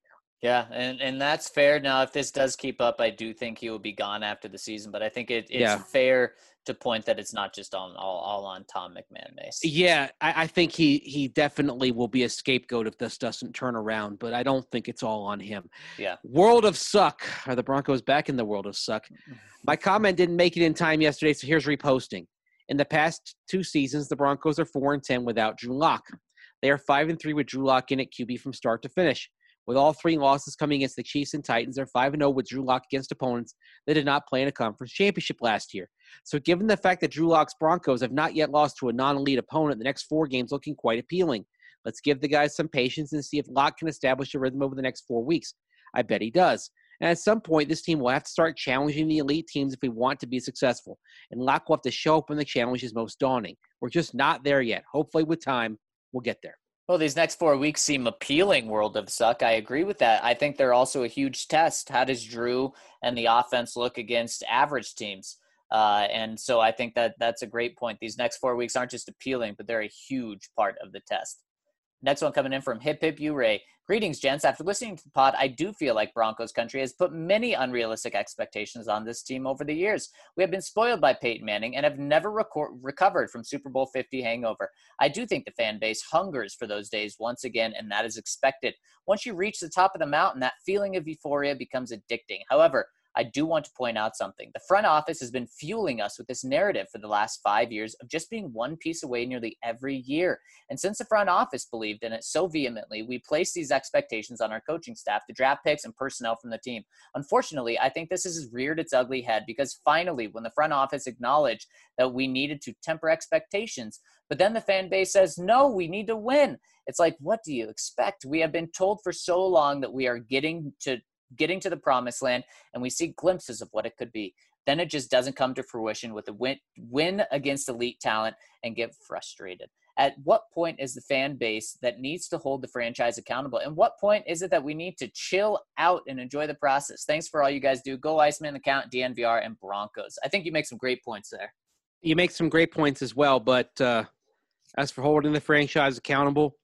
Yeah, and, and that's fair. Now, if this does keep up, I do think he will be gone after the season, but I think it, it's Yeah. fair to point that it's not just on all, all on Tom McMahon, Mace. Yeah, I, I think he he definitely will be a scapegoat if this doesn't turn around, but I don't think it's all on him. Yeah. World of suck. Are the Broncos back in the world of suck? My comment didn't make it in time yesterday, so here's reposting. In the past two seasons, the Broncos are four and ten without Drew Lock. They are five and three with Drew Lock in at Q B from start to finish. With all three losses coming against the Chiefs and Titans, they're five and oh with Drew Lock against opponents that did not play in a conference championship last year. So given the fact that Drew Lock's Broncos have not yet lost to a non-elite opponent, the next four games looking quite appealing. Let's give the guys some patience and see if Lock can establish a rhythm over the next four weeks. I bet he does. And at some point, this team will have to start challenging the elite teams if we want to be successful. And Lock will have to show up when the challenge is most daunting. We're just not there yet. Hopefully with time, we'll get there. Well, these next four weeks seem appealing, World of Suck. I agree with that. I think they're also a huge test. How does Drew and the offense look against average teams? Uh, and so I think that that's a great point. These next four weeks aren't just appealing, but they're a huge part of the test. Next one coming in from Hip Hip U-Ray. Greetings, gents. After listening to the pod, I do feel like Broncos country has put many unrealistic expectations on this team over the years. We have been spoiled by Peyton Manning and have never record- recovered from Super Bowl fifty hangover. I do think the fan base hungers for those days once again, and that is expected. Once you reach the top of the mountain, that feeling of euphoria becomes addicting. However, I do want to point out something. The front office has been fueling us with this narrative for the last five years of just being one piece away nearly every year. And since the front office believed in it so vehemently, we placed these expectations on our coaching staff, the draft picks, and personnel from the team. Unfortunately, I think this has reared its ugly head because finally, when the front office acknowledged that we needed to temper expectations, but then the fan base says, no, we need to win. It's like, what do you expect? We have been told for so long that we are getting to getting to the promised land, and we see glimpses of what it could be. Then it just doesn't come to fruition with a win, win against elite talent and get frustrated. At what point is the fan base that needs to hold the franchise accountable? And what point is it that we need to chill out and enjoy the process? Thanks for all you guys do. Go Iceman, Account, D N V R, and Broncos. I think you make some great points there. You make some great points as well, but uh, as for holding the franchise accountable,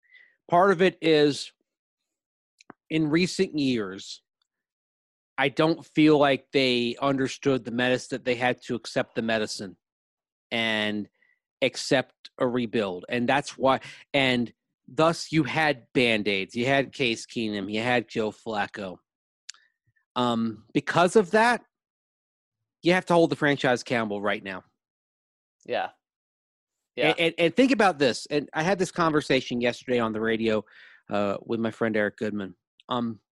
part of it is in recent years, I don't feel like they understood the medicine, that they had to accept the medicine and accept a rebuild. And that's why, and thus you had Band-Aids, you had Case Keenum, you had Joe Flacco. Um, because of that, you have to hold the franchise accountable right now. Yeah. Yeah. And, and, and think about this. And I had this conversation yesterday on the radio uh, with my friend Eric Goodman. Um,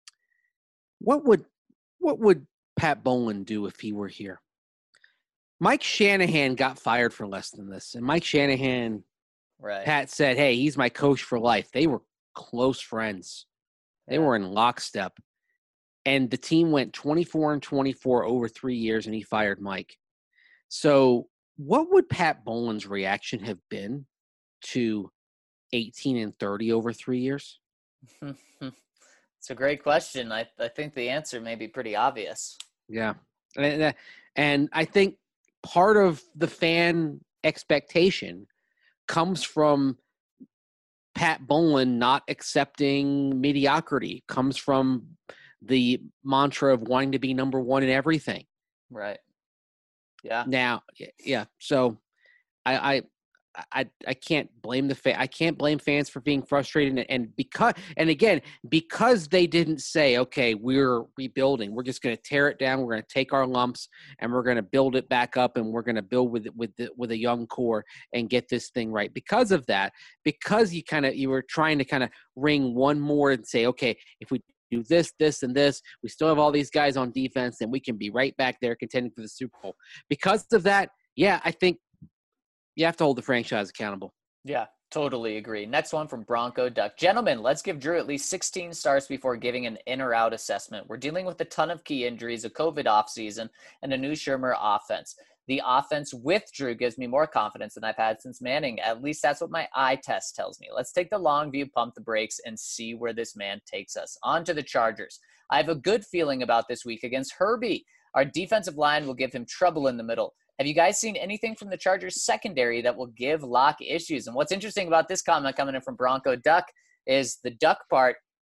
what would what would Pat Bowlen do if he were here? Mike Shanahan got fired for less than this, and Mike Shanahan, right. Pat said, "Hey, he's my coach for life." They were close friends. They Yeah. were in lockstep, and the team went twenty-four and twenty-four over three years, and he fired Mike. So, what would Pat Bowlen's reaction have been to eighteen and thirty over three years? It's a great question. I, I think the answer may be pretty obvious. Yeah. And, and I think part of the fan expectation comes from Pat Bowlen not accepting mediocrity, comes from the mantra of wanting to be number one in everything. Right. Yeah. Now, yeah. So I, I, I, I can't blame the fa- I can't blame fans for being frustrated, and, and because and again because they didn't say, okay, we're rebuilding, we're just going to tear it down, we're going to take our lumps and we're going to build it back up, and we're going to build with with the, with a young core and get this thing right. Because of that, because you kind of you were trying to kind of ring one more and say, okay, if we do this, this, and this, we still have all these guys on defense, and we can be right back there contending for the Super Bowl. Because of that, yeah, I think you have to hold the franchise accountable. Yeah, totally agree. Next one from Bronco Duck. Gentlemen, let's give Drew at least sixteen starts before giving an in or out assessment. We're dealing with a ton of key injuries, a COVID offseason, and a new Shermer offense. The offense with Drew gives me more confidence than I've had since Manning. At least that's what my eye test tells me. Let's take the long view, pump the brakes, and see where this man takes us. On to the Chargers. I have a good feeling about this week against Herbie. Our defensive line will give him trouble in the middle. Have you guys seen anything from the Chargers secondary that will give Locke issues? And what's interesting about this comment coming in from Bronco Duck is the duck part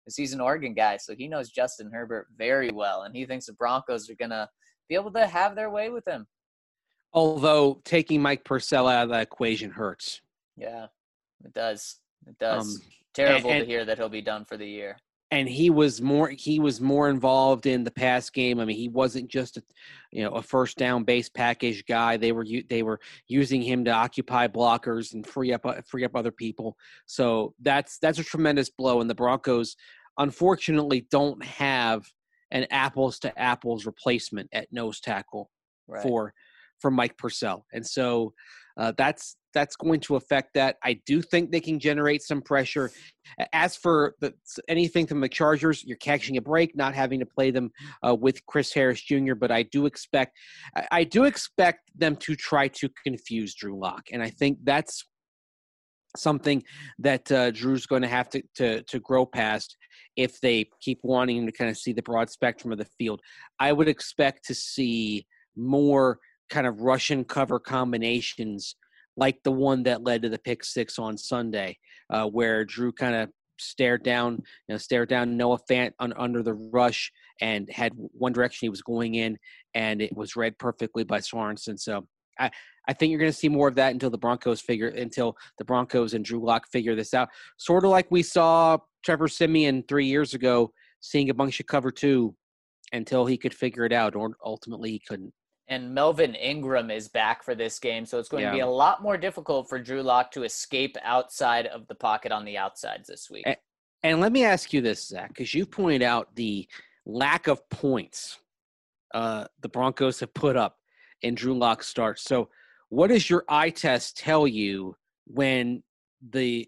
because he's an Oregon guy, so he knows Justin Herbert very well, and he thinks the Broncos are going to be able to have their way with him. Although taking Mike Purcell out of that equation hurts. Yeah, it does. It does. Um, Terrible and, to hear that he'll be done for the year. And he was more he was more involved in the pass game. I mean, he wasn't just a, you know, a first down base package guy. They were they were using him to occupy blockers and free up free up other people. So that's that's a tremendous blow. And the Broncos, unfortunately, don't have an apples to apples replacement at nose tackle right. for for Mike Purcell. And so uh, that's that's going to affect that. I do think they can generate some pressure. As for the, anything from the Chargers, you're catching a break, not having to play them uh, with Chris Harris Junior But I do expect, I, I do expect them to try to confuse Drew Lock, and I think that's something that uh, Drew's going to have to, to to grow past if they keep wanting to kind of see the broad spectrum of the field. I would expect to see more kind of Russian cover combinations like the one that led to the pick six on Sunday, uh, where Drew kind of stared down, you know, stared down Noah Fant un, under the rush and had one direction he was going in, and it was read perfectly by Sorensen. So I, I think you're going to see more of that until the Broncos figure, until the Broncos and Drew Lock figure this out. Sort of like we saw Trevor Siemian three years ago, seeing a bunch of cover two until he could figure it out, or ultimately he couldn't. And Melvin Ingram is back for this game, so it's going yeah. to be a lot more difficult for Drew Lock to escape outside of the pocket on the outsides this week. And, and let me ask you this, Zach, because you pointed out the lack of points uh, the Broncos have put up in Drew Lock's start. So what does your eye test tell you when the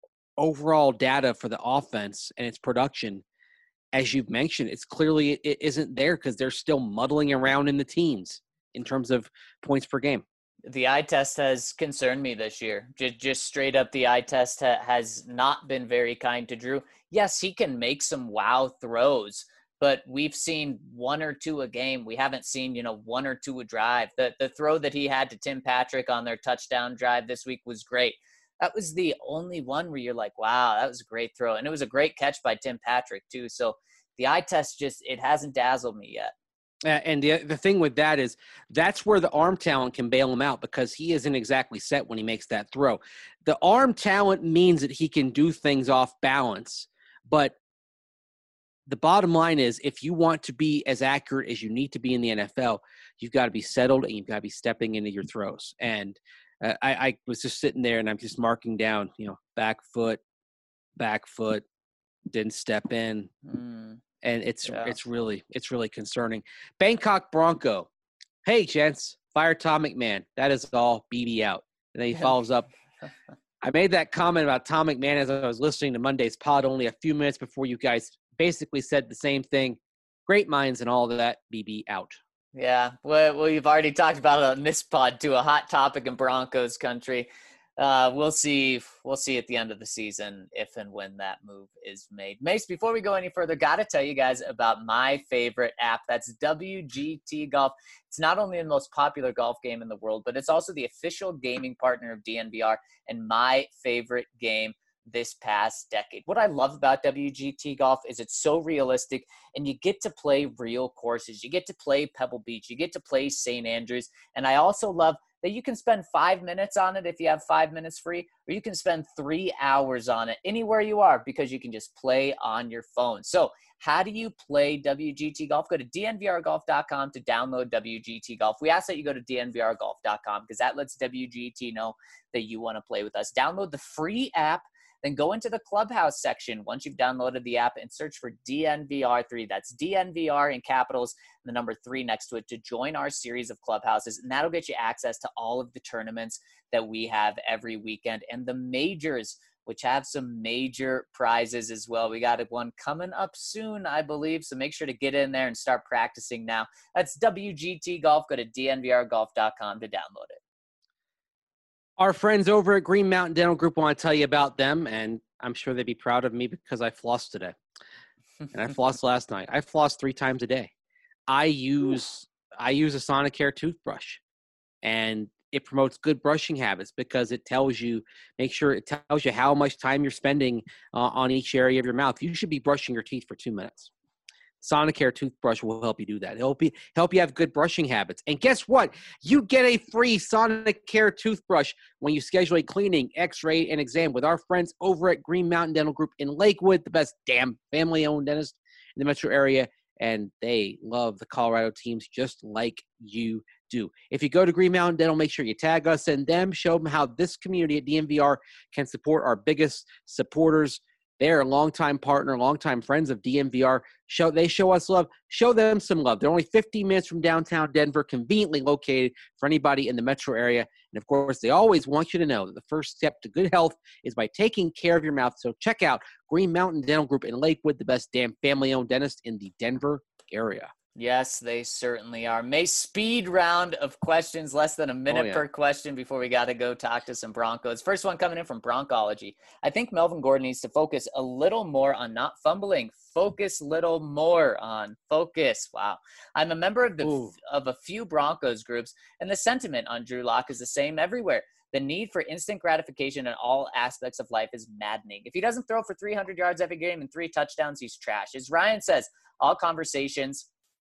overall data for the offense and its production, as you've mentioned, it's clearly it isn't there because they're still muddling around in the teens in terms of points per game? The eye test has concerned me this year. Just, just straight up, the eye test ha- has not been very kind to Drew. Yes, he can make some wow throws, but we've seen one or two a game. We haven't seen, you know, one or two a drive. The the throw that he had to Tim Patrick on their touchdown drive this week was great. That was the only one where you're like, wow, that was a great throw. And it was a great catch by Tim Patrick too. So the eye test just, it hasn't dazzled me yet. Uh, and the the thing with that is that's where the arm talent can bail him out, because he isn't exactly set when he makes that throw. The arm talent means that he can do things off balance, but the bottom line is, if you want to be as accurate as you need to be in the N F L, you've got to be settled and you've got to be stepping into your throws. And uh, I, I was just sitting there and I'm just marking down, you know, back foot, back foot, didn't step in. Mm. And it's Yeah. it's really it's really concerning. Bangkok Bronco. Hey, gents, fire Tom McMahon. That is all. B B out. And then he follows up. I made that comment about Tom McMahon as I was listening to Monday's pod only a few minutes before you guys basically said the same thing. Great minds and all of that. B B out. Yeah, well, we've already talked about it on this pod too, a hot topic in Broncos country. Uh, we'll see. We'll see at the end of the season if and when that move is made. Mace, before we go any further, got to tell you guys about my favorite app. That's W G T Golf. It's not only the most popular golf game in the world, but it's also the official gaming partner of D N V R and my favorite game this past decade. What I love about W G T Golf is it's so realistic, and you get to play real courses. You get to play Pebble Beach. You get to play Saint Andrews. And I also love that you can spend five minutes on it if you have five minutes free, or you can spend three hours on it anywhere you are because you can just play on your phone. So how do you play W G T Golf? Go to D N V R golf dot com to download W G T Golf. We ask that you go to D N V R golf dot com because that lets W G T know that you want to play with us. Download the free app. Then go into the Clubhouse section once you've downloaded the app and search for D N V R three. That's D N V R in capitals and the number three next to it to join our series of clubhouses. And that'll get you access to all of the tournaments that we have every weekend and the majors, which have some major prizes as well. We got one coming up soon, I believe. So make sure to get in there and start practicing now. That's W G T Golf. Go to D N V R golf dot com to download it. Our friends over at Green Mountain Dental Group want to tell you about them, and I'm sure they'd be proud of me because I flossed today. And I flossed last night. I floss three times a day. I use I use a Sonicare toothbrush, and it promotes good brushing habits because it tells you, make sure it tells you how much time you're spending uh, on each area of your mouth. You should be brushing your teeth for two minutes. Sonicare toothbrush will help you do that. It'll help you, help you have good brushing habits. And guess what? You get a free Sonicare toothbrush when you schedule a cleaning, x-ray, and exam with our friends over at Green Mountain Dental Group in Lakewood, the best damn family-owned dentist in the metro area. And they love the Colorado teams just like you do. If you go to Green Mountain Dental, make sure you tag us and them. Show them how this community at D N V R can support our biggest supporters. They're a longtime partner, longtime friends of D N V R. Show They show us love. Show them some love. They're only fifteen minutes from downtown Denver, conveniently located for anybody in the metro area. And, of course, they always want you to know that the first step to good health is by taking care of your mouth. So check out Green Mountain Dental Group in Lakewood, the best damn family-owned dentist in the Denver area. Yes, they certainly are. May speed round of questions, less than a minute oh, yeah. per question before we got to go talk to some Broncos. First one coming in from Broncology. I think Melvin Gordon needs to focus a little more on not fumbling. Focus little more on focus. Wow. I'm a member of the Ooh. of a few Broncos groups, and the sentiment on Drew Lock is the same everywhere. The need for instant gratification in all aspects of life is maddening. If he doesn't throw for three hundred yards every game and three touchdowns, he's trash. As Ryan says, all conversations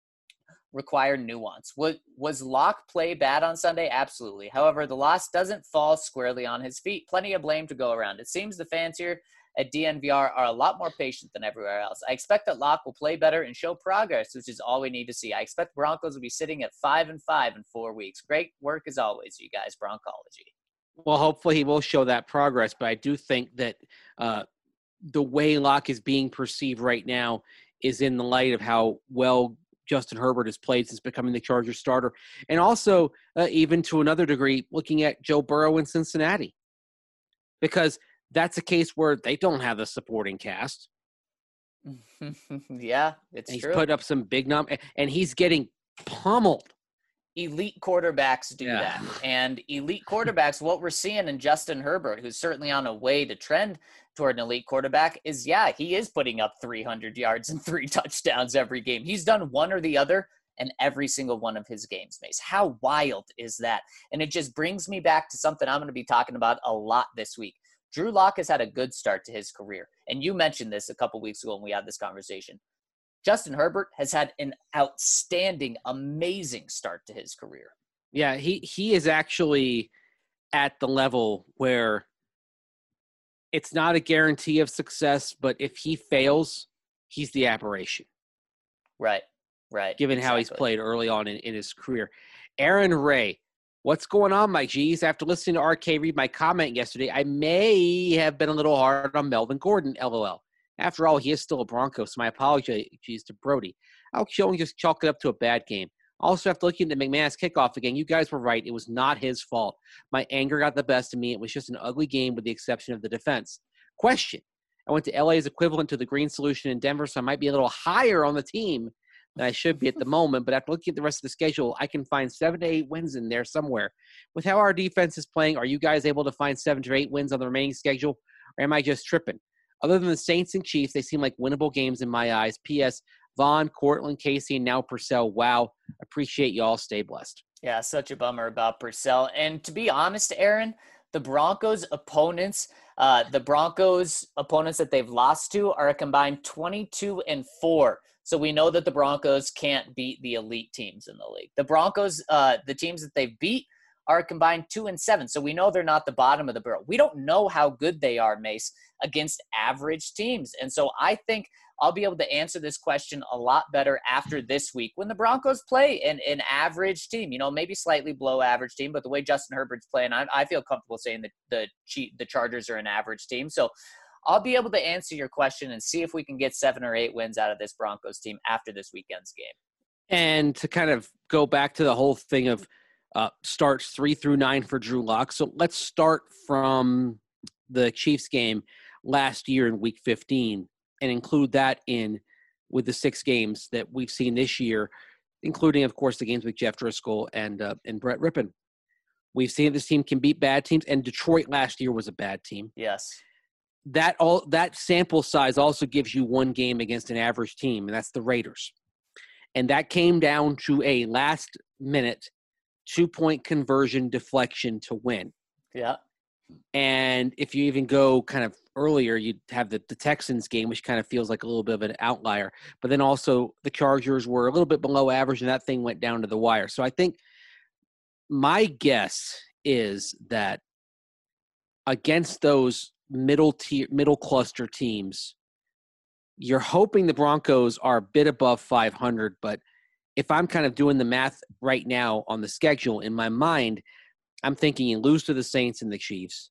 require nuance. Was, was Locke play bad on Sunday? Absolutely. However, the loss doesn't fall squarely on his feet. Plenty of blame to go around. It seems the fans here at D N V R are a lot more patient than everywhere else. I expect that Locke will play better and show progress, which is all we need to see. I expect Broncos will be sitting at five and five in four weeks. Great work as always, you guys. Broncology. Well, hopefully he will show that progress, but I do think that uh, the way Locke is being perceived right now is in the light of how well Justin Herbert has played since becoming the Chargers starter. And also, uh, even to another degree, looking at Joe Burrow in Cincinnati. Because that's a case where they don't have the supporting cast. yeah, it's and true. He's put up some big numbers, and he's getting pummeled. Elite quarterbacks do yeah. that. And elite quarterbacks, what we're seeing in Justin Herbert, who's certainly on a way to trend toward an elite quarterback, is, yeah, he is putting up three hundred yards and three touchdowns every game. He's done one or the other in every single one of his games, Mace. How wild is that? And it just brings me back to something I'm going to be talking about a lot this week. Drew Lock has had a good start to his career. And you mentioned this a couple weeks ago when we had this conversation. Justin Herbert has had an outstanding, amazing start to his career. Yeah, he, he is actually at the level where it's not a guarantee of success, but if he fails, he's the aberration. Right, right. Given exactly. how he's played early on in, in his career. Aaron Ray, what's going on, my G's? After listening to R K read my comment yesterday, I may have been a little hard on Melvin Gordon, LOL. After all, he is still a Bronco, so my apologies to Brody. I'll just chalk it up to a bad game. Also, after looking at the McManus kickoff again, you guys were right. It was not his fault. My anger got the best of me. It was just an ugly game with the exception of the defense. Question. I went to L A's equivalent to the Green Solution in Denver, so I might be a little higher on the team than I should be at the moment. But after looking at the rest of the schedule, I can find seven to eight wins in there somewhere. With how our defense is playing, are you guys able to find seven to eight wins on the remaining schedule, or am I just tripping? Other than the Saints and Chiefs, they seem like winnable games in my eyes. P S. Vaughn, Cortland, Casey, and now Purcell. Wow. Appreciate you all. Stay blessed. Yeah, such a bummer about Purcell. And to be honest, Aaron, the Broncos opponents, uh, the Broncos opponents that they've lost to are a combined twenty-two and four. So we know that the Broncos can't beat the elite teams in the league. The Broncos, uh, the teams that they've beat are combined two and seven. So we know they're not the bottom of the barrel. We don't know how good they are, Mace, against average teams. And so I think I'll be able to answer this question a lot better after this week when the Broncos play an, an average team, you know, maybe slightly below average team, but the way Justin Herbert's playing, I, I feel comfortable saying that the the Chargers are an average team. So I'll be able to answer your question and see if we can get seven or eight wins out of this Broncos team after this weekend's game. And to kind of go back to the whole thing of uh, starts three through nine for Drew Lock. So let's start from the Chiefs game last year in week fifteen. And include that in with the six games that we've seen this year, including, of course, the games with Jeff Driscoll and uh, and Brett Rippon. We've seen this team can beat bad teams, and Detroit last year was a bad team. Yes. That all that sample size also gives you one game against an average team, and that's the Raiders. And that came down to a last-minute two-point conversion deflection to win. Yeah. And if you even go kind of earlier, you'd have the, the Texans game, which kind of feels like a little bit of an outlier. But then also the Chargers were a little bit below average, and that thing went down to the wire. So I think my guess is that against those middle tier, middle cluster teams, you're hoping the Broncos are a bit above five hundred. But if I'm kind of doing the math right now on the schedule in my mind, I'm thinking you lose to the Saints and the Chiefs,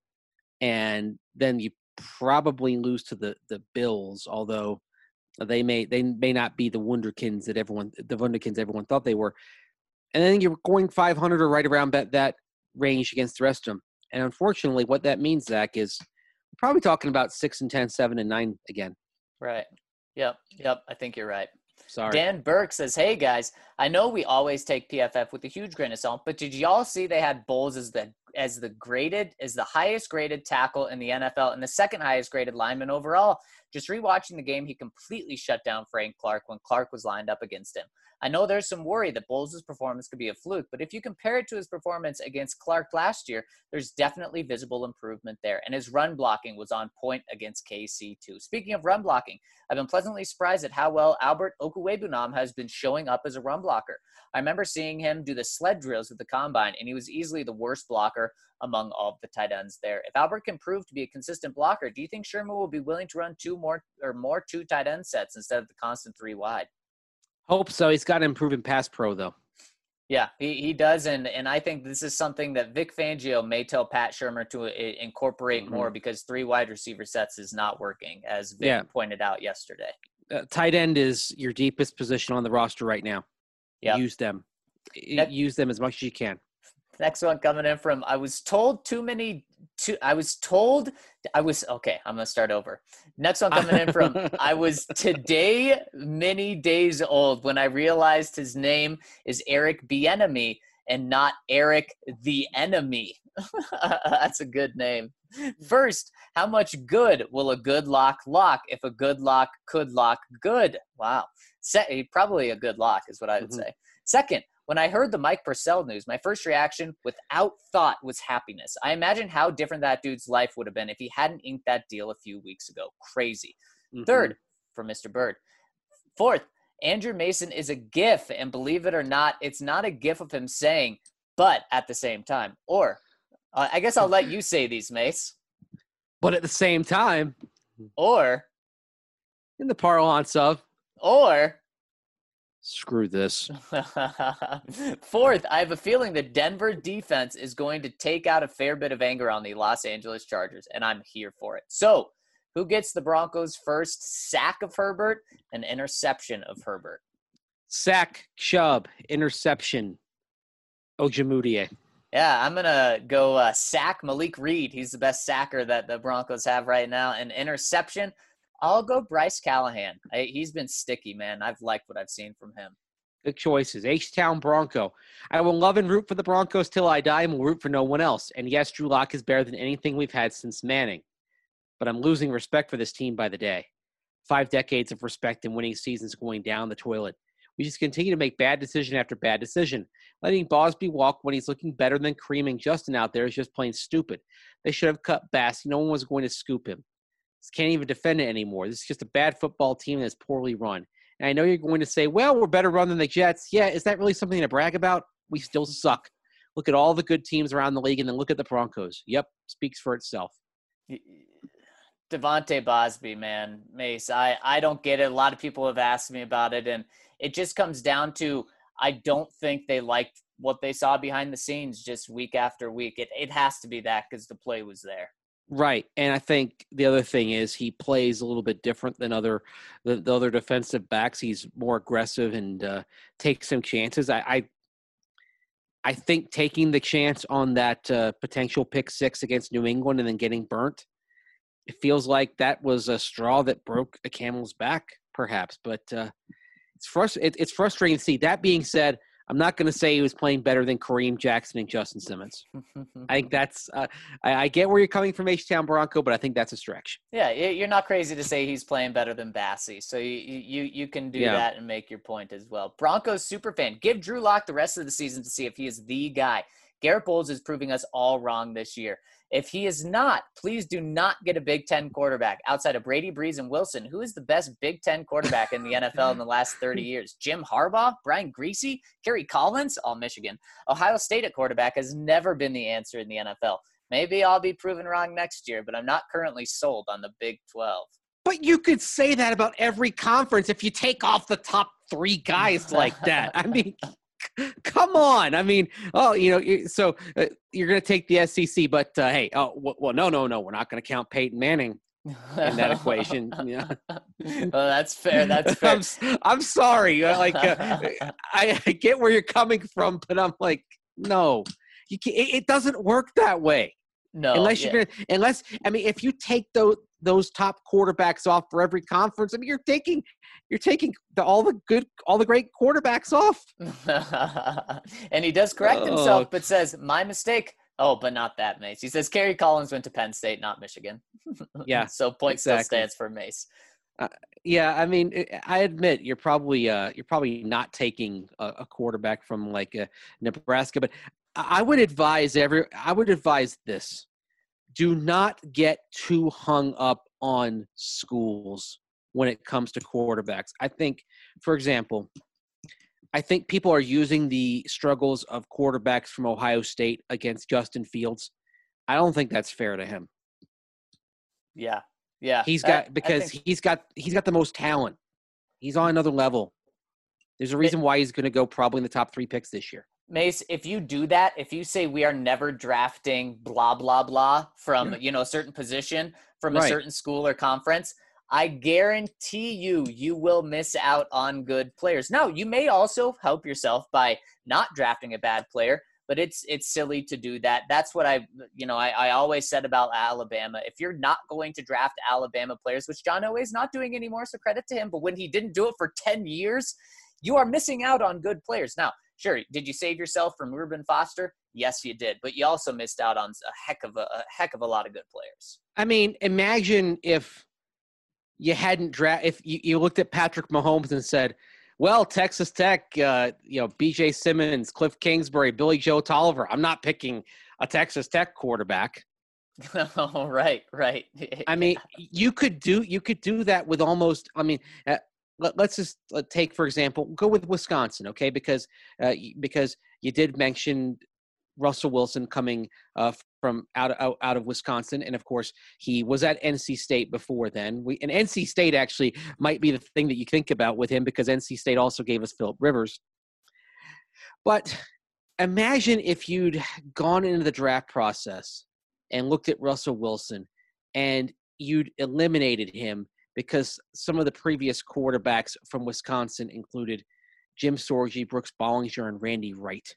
and then you probably lose to the, the Bills, although they may they may not be the wunderkinds that everyone the wunderkinds everyone thought they were. And then you're going five hundred or right around that, that range against the rest of them. And unfortunately, what that means, Zach, is we're probably talking about six and ten, seven and nine again. Right. Yep. Yep. I think you're right. Sorry. Dan Burke says, hey, guys, I know we always take P F F with a huge grain of salt, but did y'all see they had Bowles as the as the graded, as the highest graded tackle in the N F L and the second highest graded lineman overall? Just rewatching the game, he completely shut down Frank Clark when Clark was lined up against him. I know there's some worry that Bowles' performance could be a fluke, but if you compare it to his performance against Clark last year, there's definitely visible improvement there. And his run blocking was on point against K C too. Speaking of run blocking, I've been pleasantly surprised at how well Albert Okwuegbunam has been showing up as a run blocker. I remember seeing him do the sled drills at the combine, and he was easily the worst blocker among all of the tight ends there. If Albert can prove to be a consistent blocker, do you think Sherman will be willing to run two more or more two tight end sets instead of the constant three wide? Hope so. He's got to improve in pass pro, though. Yeah, he, he does, and and I think this is something that Vic Fangio may tell Pat Shurmur to uh, incorporate mm-hmm. more, because three wide receiver sets is not working, as Vic yeah. pointed out yesterday. Uh, tight end is your deepest position on the roster right now. Yeah, use them. Next, use them as much as you can. Next one coming in from, I was told too many, too, I was told, I was, okay, I'm going to start over. Next one coming in from, I was today many days old when I realized his name is Eric Bieniemy and not Eric the Enemy. That's a good name. First, how much good will a good lock lock if a good lock could lock good? Wow. Se- probably a good lock is what I would mm-hmm. say. Second, when I heard the Mike Purcell news, my first reaction without thought was happiness. I imagine how different that dude's life would have been if he hadn't inked that deal a few weeks ago. Crazy. Mm-hmm. Third, from Mister Bird. Fourth, Andrew Mason is a gif, and believe it or not, it's not a gif of him saying, but at the same time. Or, uh, I guess I'll let you say these, Mace. But at the same time. Or. In the parlance of. Or. Screw this. Fourth, I have a feeling the Denver defense is going to take out a fair bit of anger on the Los Angeles Chargers, and I'm here for it. So, who gets the Broncos' first sack of Herbert and interception of Herbert? Sack, Chubb, interception, Ojemudia. Yeah, I'm going to go uh, sack Malik Reed. He's the best sacker that the Broncos have right now. And interception, I'll go Bryce Callahan. I, he's been sticky, man. I've liked what I've seen from him. Good choices. H-Town Bronco. I will love and root for the Broncos till I die and will root for no one else. And yes, Drew Lock is better than anything we've had since Manning. But I'm losing respect for this team by the day. Five decades of respect and winning seasons going down the toilet. We just continue to make bad decision after bad decision. Letting Bosby walk when he's looking better than creaming Justin out there is just plain stupid. They should have cut Bass. No one was going to scoop him. Can't even defend it anymore. This is just a bad football team that's poorly run. And I know you're going to say, well, we're better run than the Jets. Yeah, is that really something to brag about? We still suck. Look at all the good teams around the league and then look at the Broncos. Yep, speaks for itself. Devontae Bosby, man, Mace, I, I don't get it. A lot of people have asked me about it, and it just comes down to I don't think they liked what they saw behind the scenes just week after week. It it has to be that because the play was there. Right, and I think the other thing is he plays a little bit different than other the, the other defensive backs. He's more aggressive and uh, takes some chances. I, I I think taking the chance on that uh, potential pick six against New England and then getting burnt, it feels like that was a straw that broke a camel's back, perhaps. But uh, it's frust- it, it's frustrating to see. That being said, I'm not going to say he was playing better than Kareem Jackson and Justin Simmons. I think that's uh, I, I get where you're coming from, H-Town Bronco, but I think that's a stretch. Yeah, you're not crazy to say he's playing better than Bassey, so you you you can do Yeah. that and make your point as well. Broncos superfan, give Drew Lock the rest of the season to see if he is the guy. Garrett Bowles is proving us all wrong this year. If he is not, please do not get a Big Ten quarterback outside of Brady, Breeze, and Wilson. Who is the best Big Ten quarterback in the N F L in the last thirty years? Jim Harbaugh? Brian Griese? Kerry Collins? All Michigan. Ohio State at quarterback has never been the answer in the N F L. Maybe I'll be proven wrong next year, but I'm not currently sold on the Big twelve. But you could say that about every conference if you take off the top three guys like that. I mean, come on. I mean, oh, you know, so uh, you're going to take the S E C, but uh, hey, oh, well, no, no, no, we're not going to count Peyton Manning in that equation. Yeah. Well, that's fair. That's fair. I'm, I'm sorry. Like, uh, I, I get where you're coming from, but I'm like, no, you can't, it, it doesn't work that way. No, unless yeah. you're gonna, unless I mean, if you take those those top quarterbacks off for every conference, I mean, you're taking you're taking the, all the good, all the great quarterbacks off. And he does correct Oh. himself, but says, "My mistake." Oh, but not that, Mace. He says Kerry Collins went to Penn State, not Michigan. Yeah, so point exactly. still stands for Mace. Yeah, I mean, I admit you're probably uh, you're probably not taking a, a quarterback from like uh, Nebraska, but I would advise every I would advise this: do not get too hung up on schools when it comes to quarterbacks. I think, for example, I think people are using the struggles of quarterbacks from Ohio State against Justin Fields. I don't think that's fair to him. Yeah, yeah. He's I- got I because think- he's got he's got the most talent. He's on another level. There's a reason why he's going to go probably in the top three picks this year. Mace, if you do that, if you say we are never drafting blah, blah, blah from, you know, a certain position from a Right. certain school or conference, I guarantee you, you will miss out on good players. Now, you may also help yourself by not drafting a bad player, but it's it's silly to do that. That's what I, you know, I, I always said about Alabama. If you're not going to draft Alabama players, which John Elway is not doing anymore, so credit to him, but when he didn't do it for ten years, you are missing out on good players. Now, sure, did you save yourself from Reuben Foster? Yes, you did. But you also missed out on a heck of a, a heck of a lot of good players. I mean, imagine if you hadn't draft if you, you looked at Patrick Mahomes and said, well, Texas Tech, uh, you know, B J Simmons, Cliff Kingsbury, Billy Joe Tolliver. I'm not picking a Texas Tech quarterback. Oh, right, right. I mean, you could do you could do that with almost. I mean, uh, let, let's just uh, take for example, go with Wisconsin, okay? Because uh, because you did mention Russell Wilson coming uh, from out of, out, out of Wisconsin, and of course he was at N C State before then. We and N C State actually might be the thing that you think about with him because N C State also gave us Phillip Rivers. But imagine if you'd gone into the draft process and looked at Russell Wilson and you'd eliminated him because some of the previous quarterbacks from Wisconsin included Jim Sorgi, Brooks Bollinger, and Randy Wright.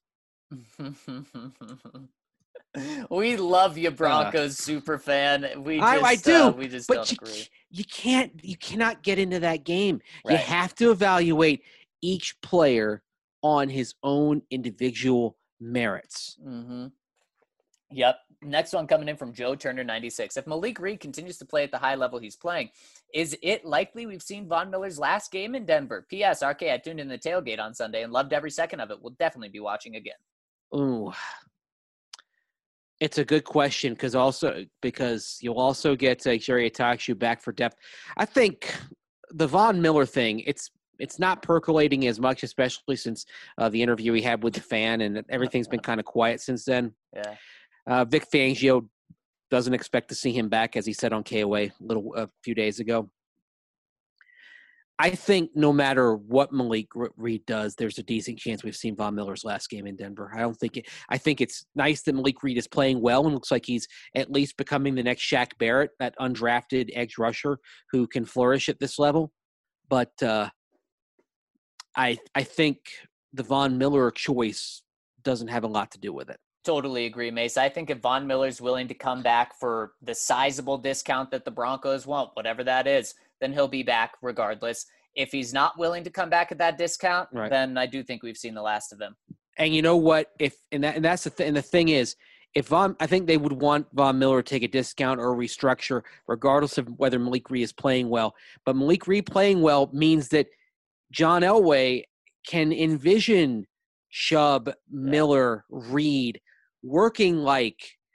We love you, Broncos uh, super fan. We just, I, I do, uh, we just but don't you, agree. You can't, you cannot get into that game. Right. You have to evaluate each player on his own individual merits. Mm-hmm. Yep. Next one coming in from Joe Turner ninety-six. If Malik Reed continues to play at the high level he's playing, is it likely we've seen Von Miller's last game in Denver? P S. R K, I tuned in the tailgate on Sunday and loved every second of it. We'll definitely be watching again. Ooh. It's a good question because also because you'll also get uh, Jerry Atakshu back for depth. I think the Von Miller thing, it's it's not percolating as much, especially since uh, the interview he had with the fan, and everything's been kind of quiet since then. Yeah. Uh, Vic Fangio doesn't expect to see him back, as he said on K O A a little a few days ago. I think no matter what Malik Reed does, there's a decent chance we've seen Von Miller's last game in Denver. I don't think it. I think it's nice that Malik Reed is playing well and looks like he's at least becoming the next Shaq Barrett, that undrafted edge rusher who can flourish at this level. But uh, I I think the Von Miller choice doesn't have a lot to do with it. Totally agree, Mace. I think if Von Miller's willing to come back for the sizable discount that the Broncos want, whatever that is, then he'll be back regardless. If he's not willing to come back at that discount, Right. then I do think we've seen the last of him. And you know what? If and that and that's the th- and the thing is, if Von, I think they would want Von Miller to take a discount or a restructure, regardless of whether Malik Reed is playing well. But Malik Reed playing well means that John Elway can envision Chubb, Miller, Reed working like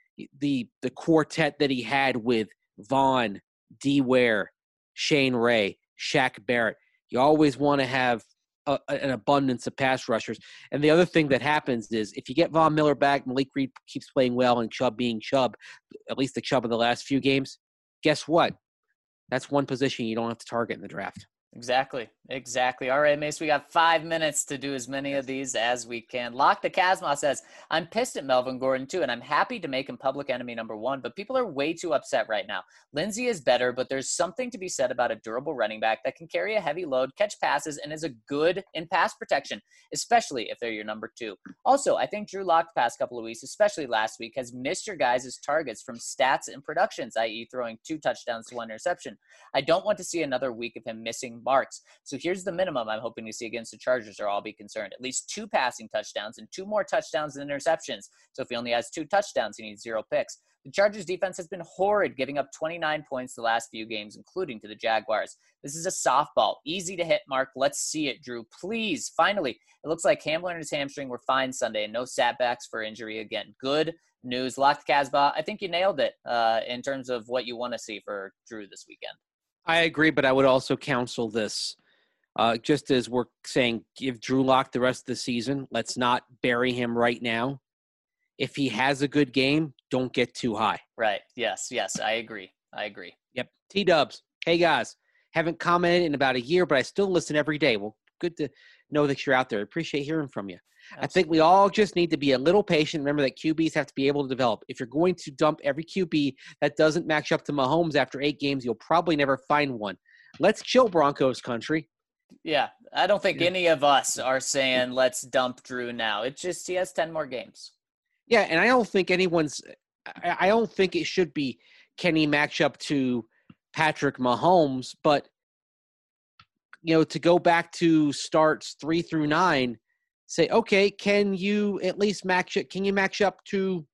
the the quartet that he had with Vaughn, D. Ware, Shane Ray, Shaq Barrett. You always want to have a, an abundance of pass rushers. And the other thing that happens is if you get Von Miller back, Malik Reed keeps playing well, and Chubb being Chubb, at least the Chubb of the last few games, guess what? That's one position you don't have to target in the draft. Exactly. Exactly. All right, Mace, we got five minutes to do as many of these as we can. Lock the Casma says, I'm pissed at Melvin Gordon too, and I'm happy to make him public enemy number one, but people are way too upset right now. Lindsey is better, but there's something to be said about a durable running back that can carry a heavy load, catch passes, and is a good in pass protection, especially if they're your number two. Also, I think Drew Lock the past couple of weeks, especially last week, has missed your guys' targets from stats and productions, that is throwing two touchdowns to one interception. I don't want to see another week of him missing marks. So here's the minimum I'm hoping to see against the Chargers, or I'll be concerned. At least two passing touchdowns and two more touchdowns than interceptions. So if he only has two touchdowns, he needs zero picks. The Chargers defense has been horrid, giving up twenty-nine points the last few games, including to the Jaguars. This is a softball. Easy to hit, Mark. Let's see it, Drew. Please. Finally, it looks like Hamler and his hamstring were fine Sunday, and no setbacks for injury again. Good news. Lock the Casbah. I think you nailed it uh, in terms of what you want to see for Drew this weekend. I agree, but I would also counsel this. Uh, just as we're saying, give Drew Lock the rest of the season. Let's not bury him right now. If he has a good game, don't get too high. Right. Yes. Yes. I agree. I agree. Yep. T-Dubs. Hey, guys. Haven't commented in about a year, but I still listen every day. Well, good to know that you're out there. I appreciate hearing from you. Absolutely. I think we all just need to be a little patient. Remember that Q Bs have to be able to develop. If you're going to dump every Q B that doesn't match up to Mahomes after eight games, you'll probably never find one. Let's chill, Broncos country. Yeah, I don't think any of us are saying let's dump Drew now. It's just he has ten more games. Yeah, and I don't think anyone's – I don't think it should be can he match up to Patrick Mahomes, but, you know, to go back to starts three through nine, say, okay, can you at least match it? Can you match up to,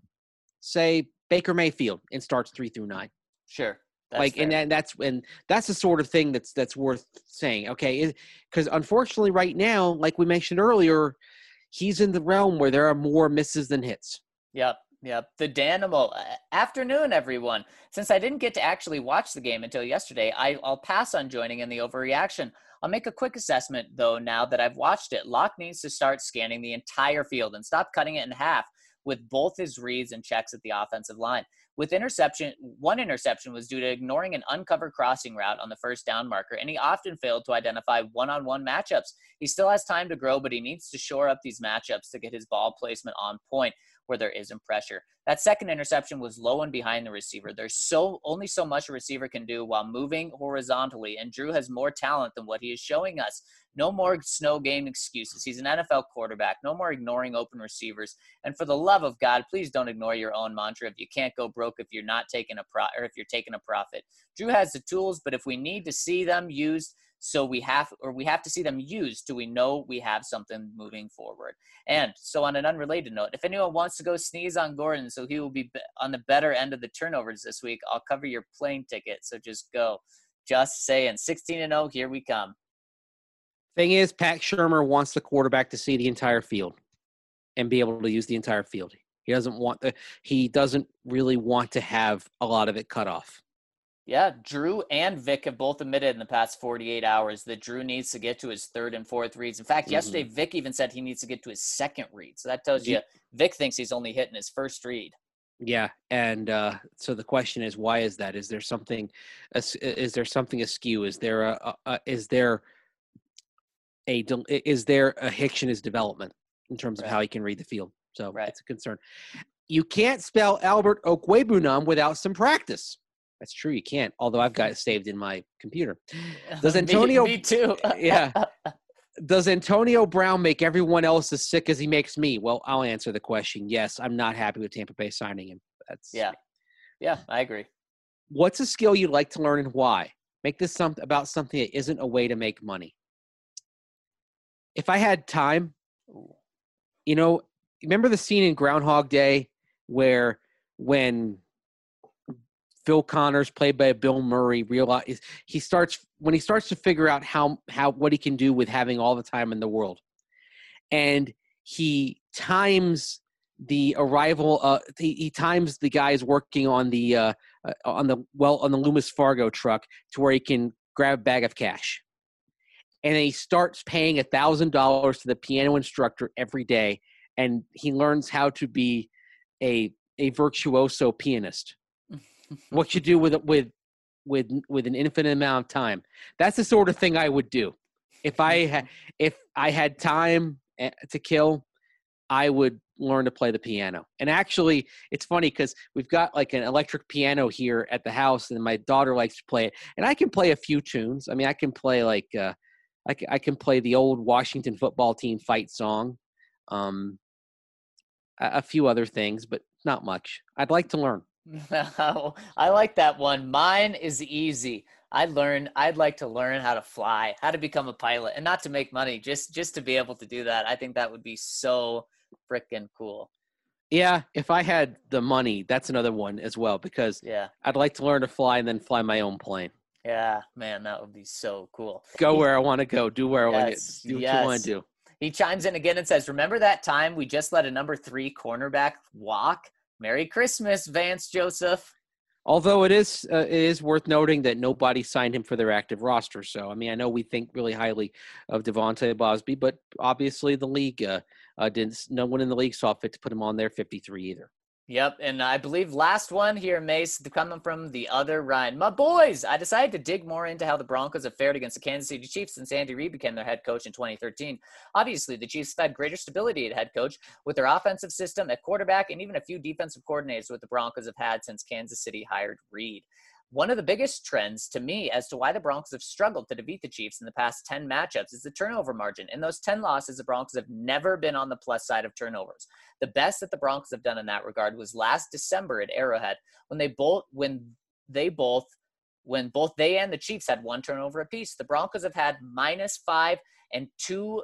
say, Baker Mayfield in starts three through nine? Sure. That's like, fair. and, and that's and that's the sort of thing that's that's worth saying. Okay, because unfortunately, right now, like we mentioned earlier, he's in the realm where there are more misses than hits. Yep. Yep. The Danimal. Afternoon, everyone. Since I didn't get to actually watch the game until yesterday, I, I'll pass on joining in the overreaction. I'll make a quick assessment, though, now that I've watched it. Locke needs to start scanning the entire field and stop cutting it in half with both his reads and checks at the offensive line. With interception, one interception was due to ignoring an uncovered crossing route on the first down marker, and he often failed to identify one-on-one matchups. He still has time to grow, but he needs to shore up these matchups to get his ball placement on point where there isn't pressure. That second interception was low and behind the receiver. There's so only so much a receiver can do while moving horizontally, and Drew has more talent than what he is showing us. No more snow game excuses. He's an N F L quarterback. No more ignoring open receivers. And for the love of God, please don't ignore your own mantra. If you can't go broke, if you're not taking a pro, or if you're taking a profit. Drew has the tools, but if we need to see them used, so we have, or we have to see them used, do we know we have something moving forward? And so on an unrelated note, if anyone wants to go sneeze on Gordon so he will be on the better end of the turnovers this week, I'll cover your plane ticket. So just go. Just saying. sixteen and oh, here we come. Thing is, Pat Shurmur wants the quarterback to see the entire field and be able to use the entire field. He doesn't want the, he doesn't really want to have a lot of it cut off. Yeah, Drew and Vic have both admitted in the past forty-eight hours that Drew needs to get to his third and fourth reads. In fact, mm-hmm. yesterday, Vic even said he needs to get to his second read. So that tells you Vic thinks he's only hitting his first read. Yeah, and uh, so the question is, why is that? Is there something? Is there something askew? Is there a? a, a is there a? Is there a hitch in his development in terms of right. how he can read the field? So right. it's a concern. You can't spell Albert Okwebunam without some practice. That's true. You can't. Although I've got it saved in my computer. Does Antonio? me, me too. yeah. Does Antonio Brown make everyone else as sick as he makes me? Well, I'll answer the question. Yes, I'm not happy with Tampa Bay signing him. That's yeah, yeah, I agree. What's a skill you'd like to learn and why? make this some, about something that isn't a way to make money. If I had time, you know, remember the scene in Groundhog Day where when Phil Connors, played by Bill Murray, realize he starts when he starts to figure out how how what he can do with having all the time in the world, and he times the arrival. Uh, he, he times the guys working on the uh, uh, on the well on the Loomis Fargo truck to where he can grab a bag of cash, and then he starts paying a thousand dollars to the piano instructor every day, and he learns how to be a a virtuoso pianist. What you do with with with with an infinite amount of time. That's the sort of thing I would do. If I had if I had time to kill, I would learn to play the piano. And actually, it's funny because we've got like an electric piano here at the house, and my daughter likes to play it. And I can play a few tunes. I mean, I can play like uh, I can, I can play the old Washington football team fight song, um, a, a few other things, but not much. I'd like to learn. I like that one. Mine is easy. I'd learn. I'd like to learn how to fly, how to become a pilot, and not to make money, just just to be able to do that. I think that would be so freaking cool. Yeah, if I had the money, that's another one as well, because yeah, I'd like to learn to fly and then fly my own plane. Yeah, man, that would be so cool. Go he, where I want to go. Do where yes, I want to do. What yes. you want to do. He chimes in again and says, "Remember that time we just let a number three cornerback walk? Merry Christmas, Vance Joseph." Although it is uh, it is worth noting that nobody signed him for their active roster. So, I mean, I know we think really highly of Devontae Bosby, but obviously the league uh, uh, didn't. No one in the league saw fit to put him on their fifty-three either. Yep, and I believe last one here, Mace, coming from the other Ryan. My boys, I decided to dig more into how the Broncos have fared against the Kansas City Chiefs since Andy Reid became their head coach in twenty thirteen. Obviously, the Chiefs have had greater stability at head coach with their offensive system at quarterback and even a few defensive coordinators what the Broncos have had since Kansas City hired Reid. One of the biggest trends to me as to why the Broncos have struggled to defeat the Chiefs in the past ten matchups is the turnover margin. In those ten losses, the Broncos have never been on the plus side of turnovers. The best that the Broncos have done in that regard was last December at Arrowhead when they both when they both when both they and the Chiefs had one turnover apiece. The Broncos have had minus five and two.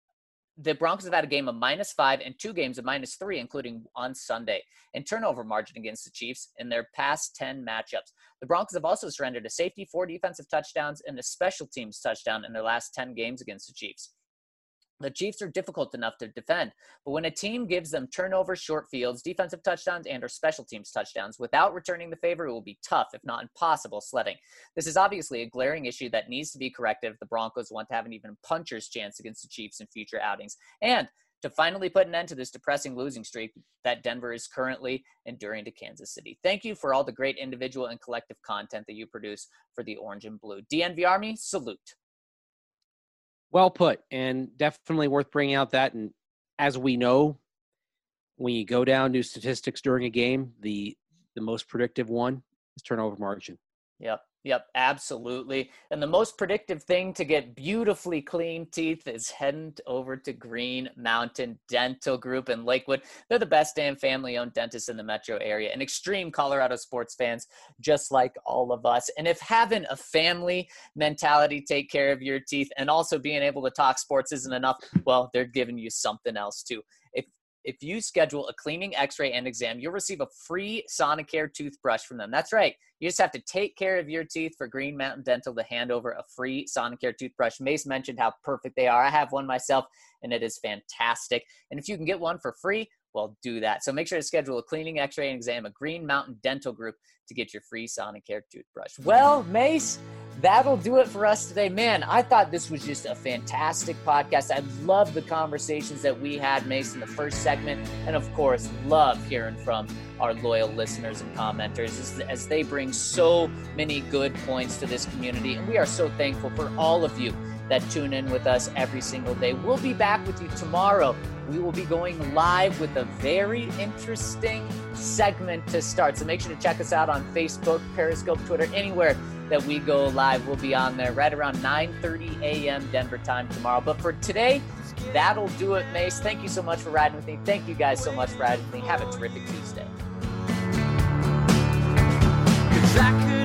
The Broncos have had a game of minus five and two games of minus three, including on Sunday, and turnover margin against the Chiefs in their past ten matchups. The Broncos have also surrendered a safety, four defensive touchdowns, and a special teams touchdown in their last ten games against the Chiefs. The Chiefs are difficult enough to defend, but when a team gives them turnovers, short fields, defensive touchdowns, and or special teams touchdowns without returning the favor, it will be tough, if not impossible, sledding. This is obviously a glaring issue that needs to be corrected if the Broncos want to have an even puncher's chance against the Chiefs in future outings, and to finally put an end to this depressing losing streak that Denver is currently enduring to Kansas City. Thank you for all the great individual and collective content that you produce for the Orange and Blue. D N V Army, salute. Well put, and definitely worth bringing out that. And as we know, when you go down to statistics during a game, the the most predictive one is turnover margin. Yep, yep, absolutely. And the most predictive thing to get beautifully clean teeth is heading over to Green Mountain Dental Group in Lakewood. They're the best damn family-owned dentists in the metro area and extreme Colorado sports fans just like all of us. And if having a family mentality take care of your teeth and also being able to talk sports isn't enough, well, they're giving you something else too. If If you schedule a cleaning, x-ray, and exam, you'll receive a free Sonicare toothbrush from them. That's right. You just have to take care of your teeth for Green Mountain Dental to hand over a free Sonicare toothbrush. Mace mentioned how perfect they are. I have one myself, and it is fantastic. And if you can get one for free, well, do that. So make sure to schedule a cleaning, x-ray, and exam at Green Mountain Dental Group to get your free Sonicare toothbrush. Well, Mace, that'll do it for us today. Man, I thought this was just a fantastic podcast. I love the conversations that we had, Mace, in the first segment. And of course, love hearing from our loyal listeners and commenters as, as they bring so many good points to this community. And we are so thankful for all of you that tune in with us every single day. We'll be back with you tomorrow. We will be going live with a very interesting segment to start. So make sure to check us out on Facebook, Periscope, Twitter, anywhere that we go live. We'll be on there right around nine thirty a.m. Denver time tomorrow. But for today, that'll do it, Mace. Thank you so much for riding with me. Thank you guys so much for riding with me. Have a terrific Tuesday. 'Cause I could